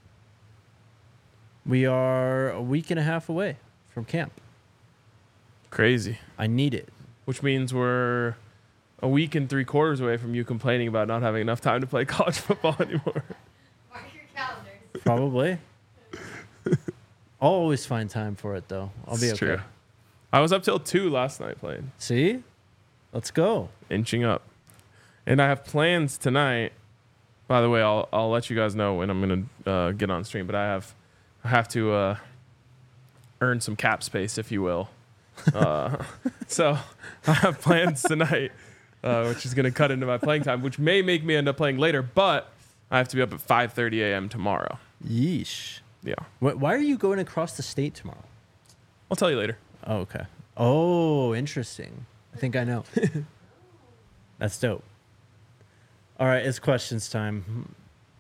We are a week and a half away from camp. Crazy. I need it. Which means we're a week and 3/4 away from you complaining about not having enough time to play college football anymore. Mark your calendars. Probably. I'll always find time for it, though. I'll be okay. True. I was up till 2 last night playing. See? Let's go. Inching up. And I have plans tonight. By the way, I'll let you guys know when I'm going to get on stream, but I have to earn some cap space, if you will. So I have plans tonight, which is going to cut into my playing time, which may make me end up playing later, but I have to be up at 5:30 a.m. tomorrow. Yeesh. Yeah. Why are you going across the state tomorrow? I'll tell you later. Oh, okay. Oh, interesting. I think I know. That's dope. All right, it's questions time.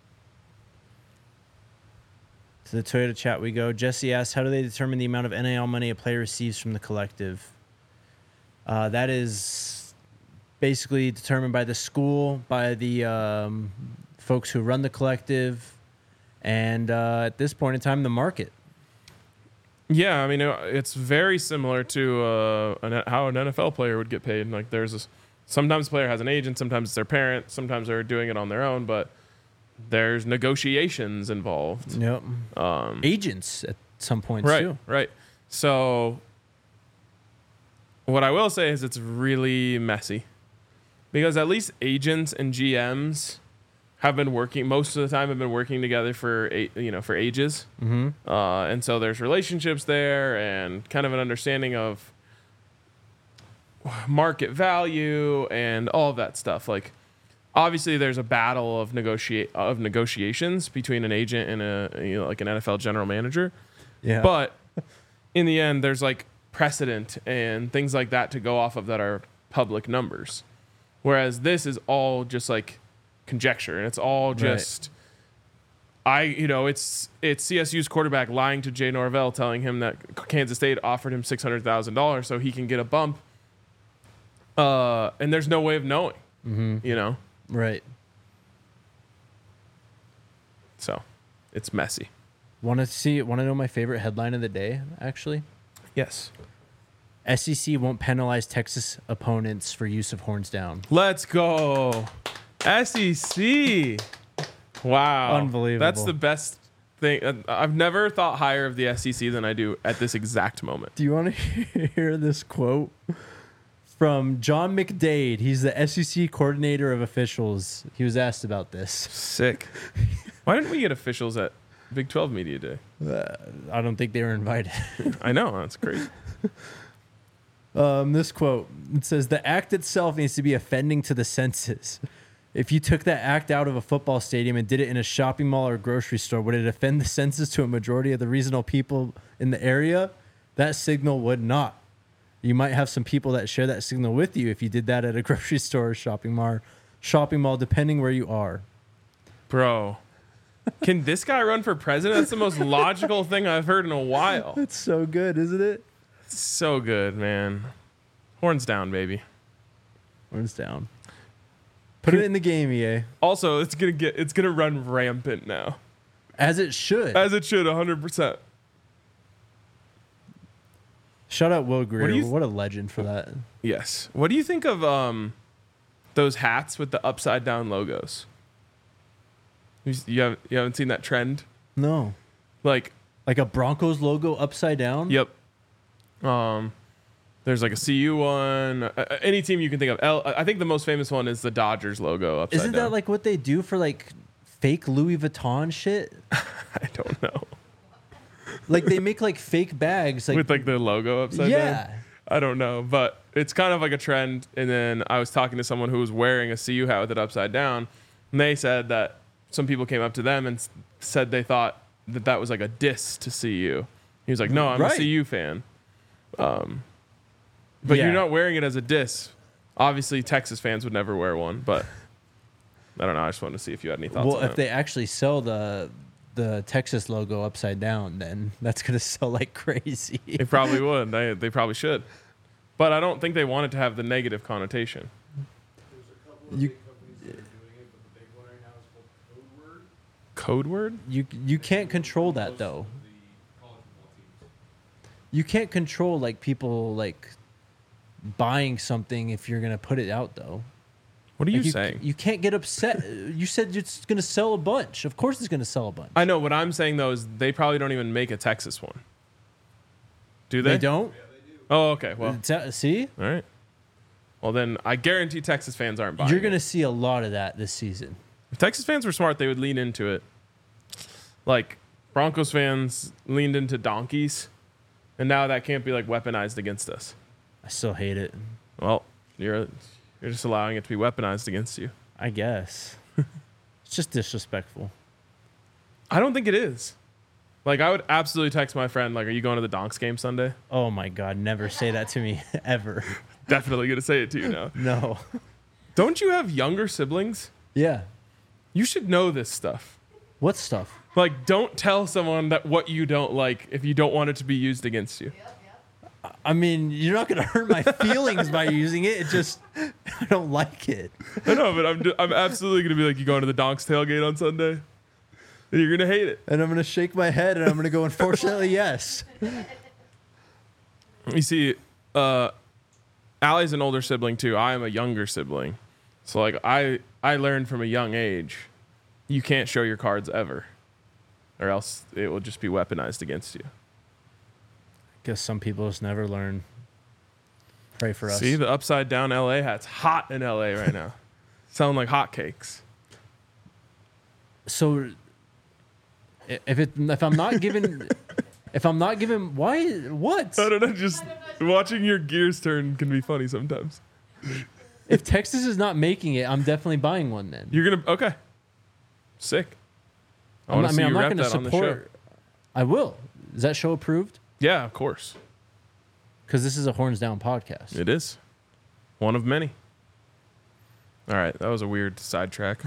To the Toyota chat we go. Jesse asks, how do they determine the amount of NIL money a player receives from the collective? That is basically determined by the school, by the folks who run the collective, and at this point in time, the market. Yeah, I mean, it's very similar to how an NFL player would get paid. Sometimes the player has an agent, sometimes it's their parent, sometimes they're doing it on their own, but there's negotiations involved. Yep. Agents at some points too. Right. So what I will say is it's really messy because at least agents and GMs have been working most of the time. Have been working together for ages, and so there's relationships there and kind of an understanding of market value and all of that stuff. obviously there's a battle of negotiations between an agent and like an NFL general manager. Yeah. But in the end, there's like precedent and things like that to go off of that are public numbers. Whereas this is all just like conjecture, and it's all just it's CSU's quarterback lying to Jay Norvell, telling him that Kansas State offered him $600,000 so he can get a bump. And there's no way of knowing, Right. So it's messy. Want to know my favorite headline of the day, actually? Yes. SEC won't penalize Texas opponents for use of horns down. Let's go. SEC. Wow. Unbelievable. That's the best thing. I've never thought higher of the SEC than I do at this exact moment. Do you want to hear this quote from John McDade? He's the SEC coordinator of officials. He was asked about this. Sick. Why didn't we get officials at Big 12 Media Day? I don't think they were invited. I know. That's crazy. This quote, it says, the act itself needs to be offending to the senses. If you took that act out of a football stadium and did it in a shopping mall or grocery store, would it offend the senses to a majority of the reasonable people in the area? That signal would not. You might have some people that share that signal with you if you did that at a grocery store or shopping mall, depending where you are. Bro, can this guy run for president? That's the most logical thing I've heard in a while. That's so good, isn't it? So good, man. Horns down, baby. Horns down. Put it in the game, EA. Also, it's gonna run rampant now. As it should. As it should, 100%. Shout out Will Greer. What What a legend for that. Yes. What do you think of those hats with the upside down logos? You haven't seen that trend? No. Like a Broncos logo upside down? Yep. There's like a CU one. Any team you can think of. I think the most famous one is the Dodgers logo upside Isn't down. that like what they do for like fake Louis Vuitton shit? I don't know. Like they make like fake bags like With like the logo upside down? Yeah. I don't know, but it's kind of like a trend. And then I was talking to someone who was wearing a CU hat with it upside down, and they said that some people came up to them and said they thought that was like a diss to CU. He was like, "No, I'm a CU fan." But Yeah. you're not wearing it as a diss. Obviously, Texas fans would never wear one, but I don't know. I just wanted to see if you had any thoughts Well, on if that. they actually sell the Texas logo upside down, then that's gonna sell like crazy. They probably would. They probably should. But I don't think they want it to have the negative connotation. There's a couple of You- big companies that are doing it, but the big one right now is called Code Word. Code word? You can't control that Most though. of the college football teams. You can't control like people like buying something if you're gonna put it out though. What are you Like, saying? You can't get upset. You said it's gonna sell a bunch. Of course, it's gonna sell a bunch. I know. What I'm saying, though, is they probably don't even make a Texas one. Do they? They don't. Oh, okay. Well, See, all right. Well, then I guarantee Texas fans aren't buying you're it. gonna see a lot of that this season. If Texas fans were smart, they would lean into it. Like Broncos fans leaned into donkeys, and now that can't be like weaponized against us. I still hate it. Well, you're just allowing it to be weaponized against you. I guess it's just disrespectful. I don't think it is. Like, I would absolutely text my friend, like, "Are you going to the Donks game Sunday?" Oh my god, never say that to me ever. Definitely gonna say it to you now. No. Don't you have younger siblings? Yeah. You should know this stuff. What stuff? Like, don't tell someone that what you don't like if you don't want it to be used against you. I mean, you're not gonna hurt my feelings by using it. It just I don't like it. I know, but I'm absolutely gonna be like, "You going to the Donks tailgate on Sunday?" And you're gonna hate it. And I'm gonna shake my head and I'm gonna go, unfortunately, yes. You see, Allie's an older sibling too. I am a younger sibling, so like I learned from a young age, you can't show your cards ever, or else it will just be weaponized against you. Guess some people just never learn. Pray for us. See, the upside down LA hat's hot in LA right now, selling like hotcakes. So if I'm not given why what? I don't know, just watching your gears turn can be funny sometimes. If Texas is not making it, I'm definitely buying one then. You're gonna okay. Sick. I I'm want to see you not rep going to that on the show. support. I will. Is that show approved? Yeah, of course. Because this is a Horns Down podcast. It is. One of many. All right, that was a weird sidetrack.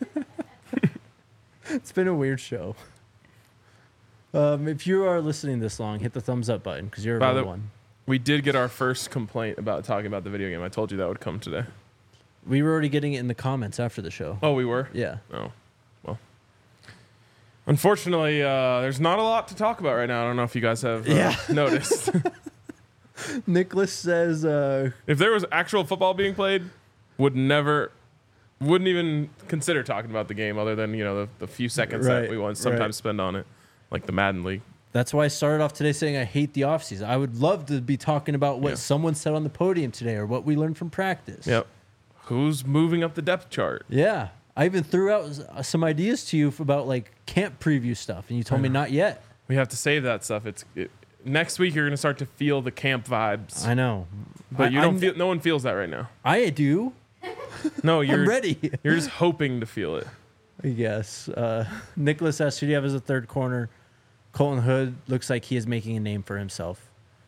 It's been a weird show. If you are listening this long, hit the thumbs up button because you're a By real the- one. We did get our first complaint about talking about the video game. I told you that would come today. We were already getting it in the comments after the show. Oh, we were? Yeah. Oh, well. Unfortunately, there's not a lot to talk about right now. I don't know if you guys have noticed. Nicholas says, If there was actual football being played, wouldn't even consider talking about the game other than, the few seconds Right, that we want sometimes right. spend on it, like the Madden League. that's why I started off today saying I hate the offseason. I would love to be talking about what Yeah. someone said on the podium today or what we learned from practice. Yep. Who's moving up the depth chart? Yeah. I even threw out some ideas to you about like camp preview stuff, and you told me not yet. We have to save that stuff. Next week you're going to start to feel the camp vibes. I know. But you don't feel. No one feels that right now. I do. No, I'm you're ready. You're just hoping to feel it. I guess. Nicholas asks, who do you have as a third corner? Colton Hood looks like he is making a name for himself.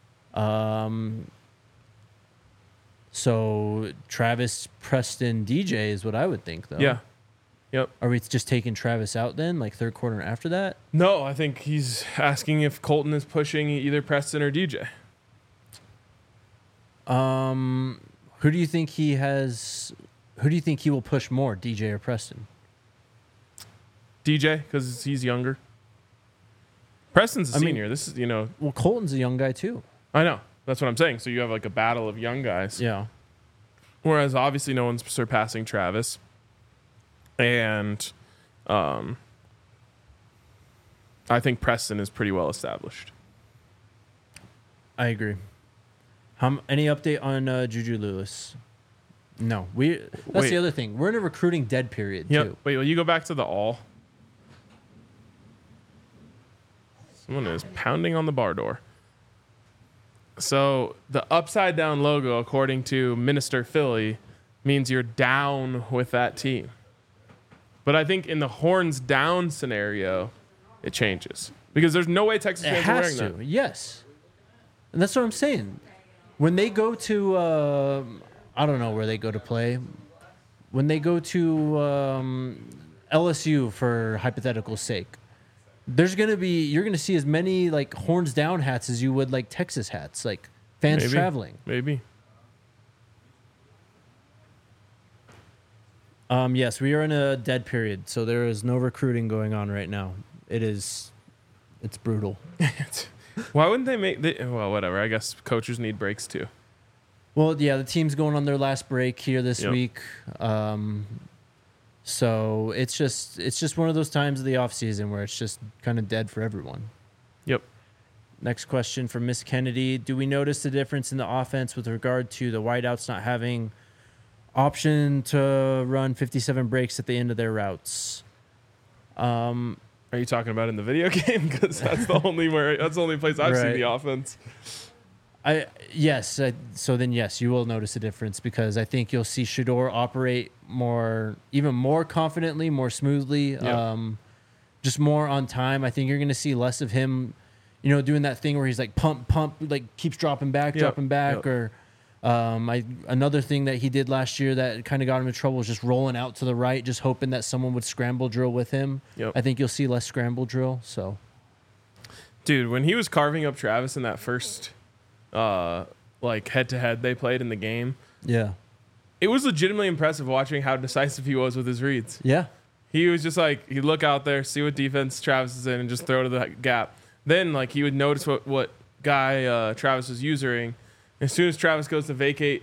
So Travis, Preston, DJ is what I would think, though. Yeah. Yep. Are we just taking Travis out then, like third corner after that? No, I think he's asking if Colton is pushing either Preston or DJ. Who do you think he has? Who do you think he will push more, DJ or Preston? DJ, because he's younger. Preston's a I mean- senior. This is, Well, Colton's a young guy too. I know. That's what I'm saying. So you have like a battle of young guys. Yeah. Whereas obviously no one's surpassing Travis. And I think Preston is pretty well established. I agree. Any update on Juju Lewis? No. That's Wait. the other thing. We're in a recruiting dead period Yep. too. Wait, will you go back to the all? Someone is pounding on the bar door. So the upside down logo, according to Minister Philly, means you're down with that team. But I think in the horns down scenario, it changes. Because there's no way Texas It fans are has wearing to. that. Yes. And that's what I'm saying. When they go to, I don't know where they go to play. When they go to LSU for hypothetical sake, you're gonna see as many like horns down hats as you would like Texas hats, like fans Maybe. traveling. Maybe. Yes, we are in a dead period, so there is no recruiting going on right now. It's brutal. Why wouldn't they well, whatever. I guess coaches need breaks too. Well, yeah, the team's going on their last break here this Yep. week. So it's just one of those times of the off season where it's just kind of dead for everyone. Yep. Next question from Miss Kennedy. Do we notice the difference in the offense with regard to the wideouts not having option to run 57 breaks at the end of their routes? Are you talking about in the video game? Because that's the only place I've seen Right. the offense. Yes. So then, yes, you will notice a difference because I think you'll see Shador operate even more confidently, more smoothly, Yeah. just more on time. I think you're going to see less of him, doing that thing where he's like pump, like keeps dropping back, Yep. Yep. or another thing that he did last year that kind of got him in trouble was just rolling out to the right, just hoping that someone would scramble drill with him. Yep. I think you'll see less scramble drill. So Dude, when he was carving up Travis in that first head-to-head they played in the game, yeah, it was legitimately impressive watching how decisive he was with his reads. yeah, He was just like, he'd look out there, see what defense Travis is in, and just throw to the gap. Then, he would notice what guy Travis was using. As soon as Travis goes to vacate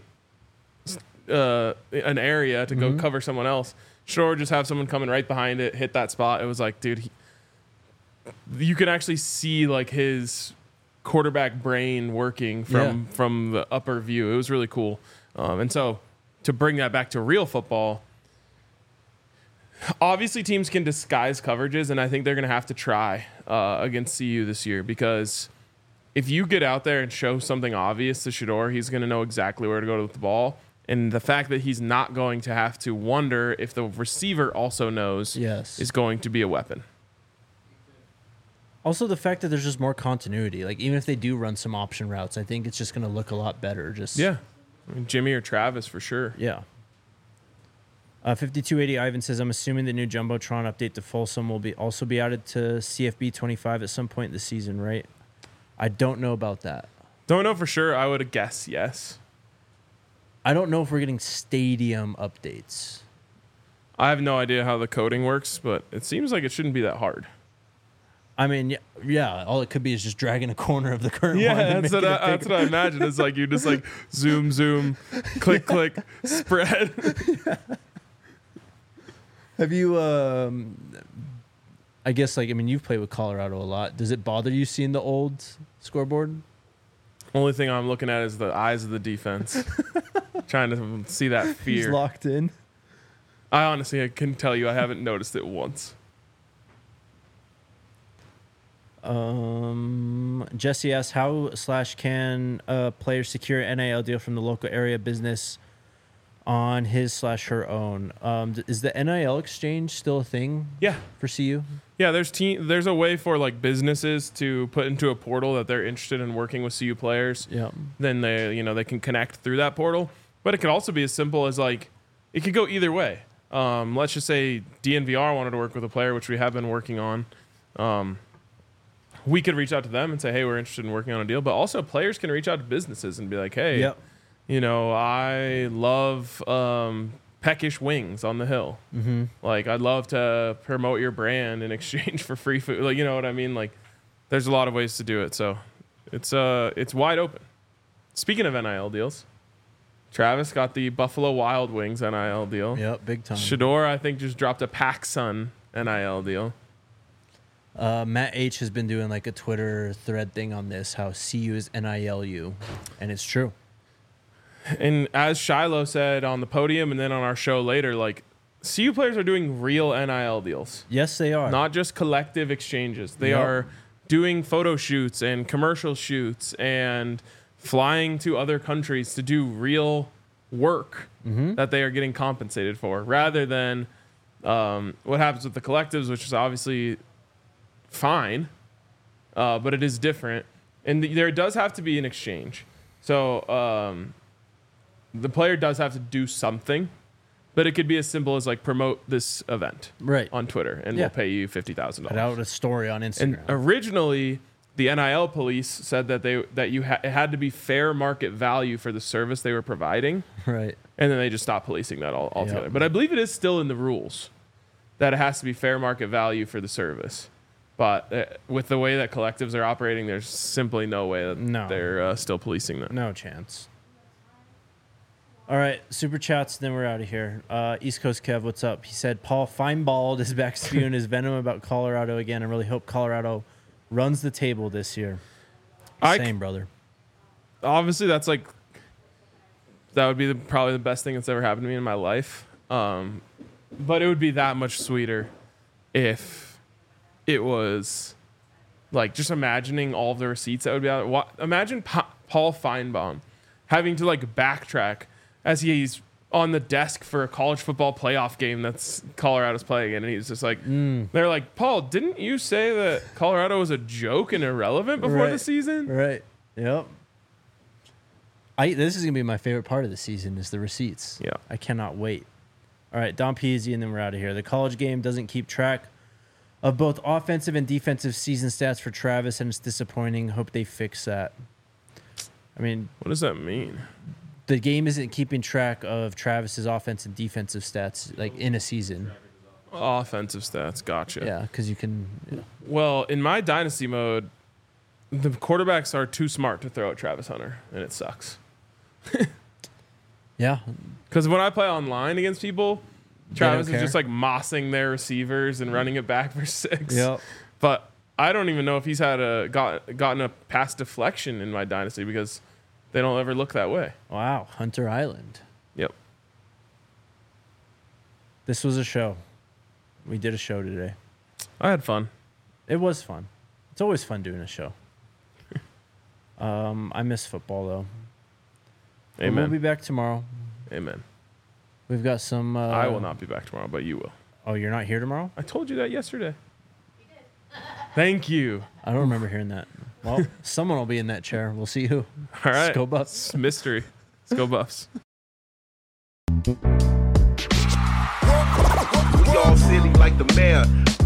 an area to go cover someone else, Shore just have someone coming right behind it, hit that spot. It was like, dude, you can actually see his quarterback brain working from the upper view. It was really cool. And so to bring that back to real football, obviously teams can disguise coverages, and I think they're going to have to try against CU this year, because if you get out there and show something obvious to Shador, he's going to know exactly where to go with the ball. And the fact that he's not going to have to wonder if the receiver also knows Yes. is going to be a weapon. Also, the fact that there's just more continuity. Like, even if they do run some option routes, I think it's just going to look a lot better. Just Yeah. I mean, Jimmy or Travis for sure. Yeah. 5280 Ivan says, I'm assuming the new Jumbotron update to Folsom will also be added to CFB 25 at some point this season, right? I don't know about that. Don't know for sure. I would guess yes. I don't know if we're getting stadium updates. I have no idea how the coding works, but it seems like it shouldn't be that hard. I mean, yeah, all it could be is just dragging a corner of the current one. Yeah, and that's making what, it that's bigger. what I imagine. It's like you just like zoom, click, click, spread. Have you, I guess, like, I mean, you've played with Colorado a lot. Does it bother you seeing the old scoreboard? Only thing I'm looking at is the eyes of the defense. Trying to see that He's fear. locked in. I can tell you I haven't noticed it once. Jesse asks, how/can a player secure an NIL deal from the local area business on his/her own? Is the NIL exchange still a thing Yeah. for CU? Yeah, there's a way for like businesses to put into a portal that they're interested in working with CU players. Yeah. Then they can connect through that portal. But it could also be as simple as like it could go either way. Let's just say DNVR wanted to work with a player, which we have been working on. We could reach out to them and say, hey, we're interested in working on a deal. But also players can reach out to businesses and be like, hey, Yep. I love peckish wings on the hill. Mm-hmm. Like, I'd love to promote your brand in exchange for free food. Like, you know what I mean? Like, there's a lot of ways to do it. So it's wide open. Speaking of NIL deals, Travis got the Buffalo Wild Wings NIL deal. Yep, big time. Shador, I think, just dropped a PacSun NIL deal. Matt H has been doing like a Twitter thread thing on this, how CU is NILU, and it's true. And as Shiloh said on the podium and then on our show later, like, CU players are doing real NIL deals. Yes, they are. Not just collective exchanges. They Yep. are doing photo shoots and commercial shoots and flying to other countries to do real work that they are getting compensated for, rather than what happens with the collectives, which is obviously fine, but it is different. And there does have to be an exchange. So the player does have to do something, but it could be as simple as like promote this event right. on Twitter and Yeah. we'll pay you $50,000. Put out a story on And Instagram. originally, the NIL police said that it had to be fair market value for the service they were providing, right. and then they just stopped policing that altogether. Yep. But I believe it is still in the rules that it has to be fair market value for the service. But with the way that collectives are operating, there's simply no way that No. they're still policing that. No chance. All right, super chats, then we're out of here. East Coast Kev, what's up? He said, Paul Feinbald is back spewing his venom about Colorado again. I really hope Colorado runs the table this year. Same, brother. Obviously, that would be probably the best thing that's ever happened to me in my life. But it would be that much sweeter if it was like, just imagining all of the receipts that would be out there. Imagine Paul Feinbaum having to like backtrack as he's on the desk for a college football playoff game that's Colorado's playing in, and he's just like, they're like, Paul, didn't you say that Colorado was a joke and irrelevant before the season? Right. Yep. This is gonna be my favorite part of the season is the receipts. Yeah. I cannot wait. All right, Don Peasy, and then we're out of here. The college game doesn't keep track of both offensive and defensive season stats for Travis, and it's disappointing. Hope they fix that. I mean, What does that mean? the game isn't keeping track of Travis's offensive and defensive stats like in a season. Offensive stats, gotcha. Yeah, because you can. Yeah. Well, in my dynasty mode, the quarterbacks are too smart to throw at Travis Hunter, and it sucks. Yeah. Because when I play online against people, Travis is care. just like mossing their receivers and running it back for 6. Yep. But I don't even know if he's had gotten a pass deflection in my dynasty because they don't ever look that way. Wow. Hunter Island. Yep. This was a show. We did a show today. I had fun. It was fun. It's always fun doing a show. I miss football though. But Amen. we'll be back tomorrow. Amen. We've got some. I will not be back tomorrow, but you will. Oh, you're not here tomorrow? I told you that yesterday. Thank you. I don't remember hearing that. Well, someone will be in that chair. We'll see who. All right. Let's go Buffs. It's mystery. Let's go Buffs. We all silly like the mayor.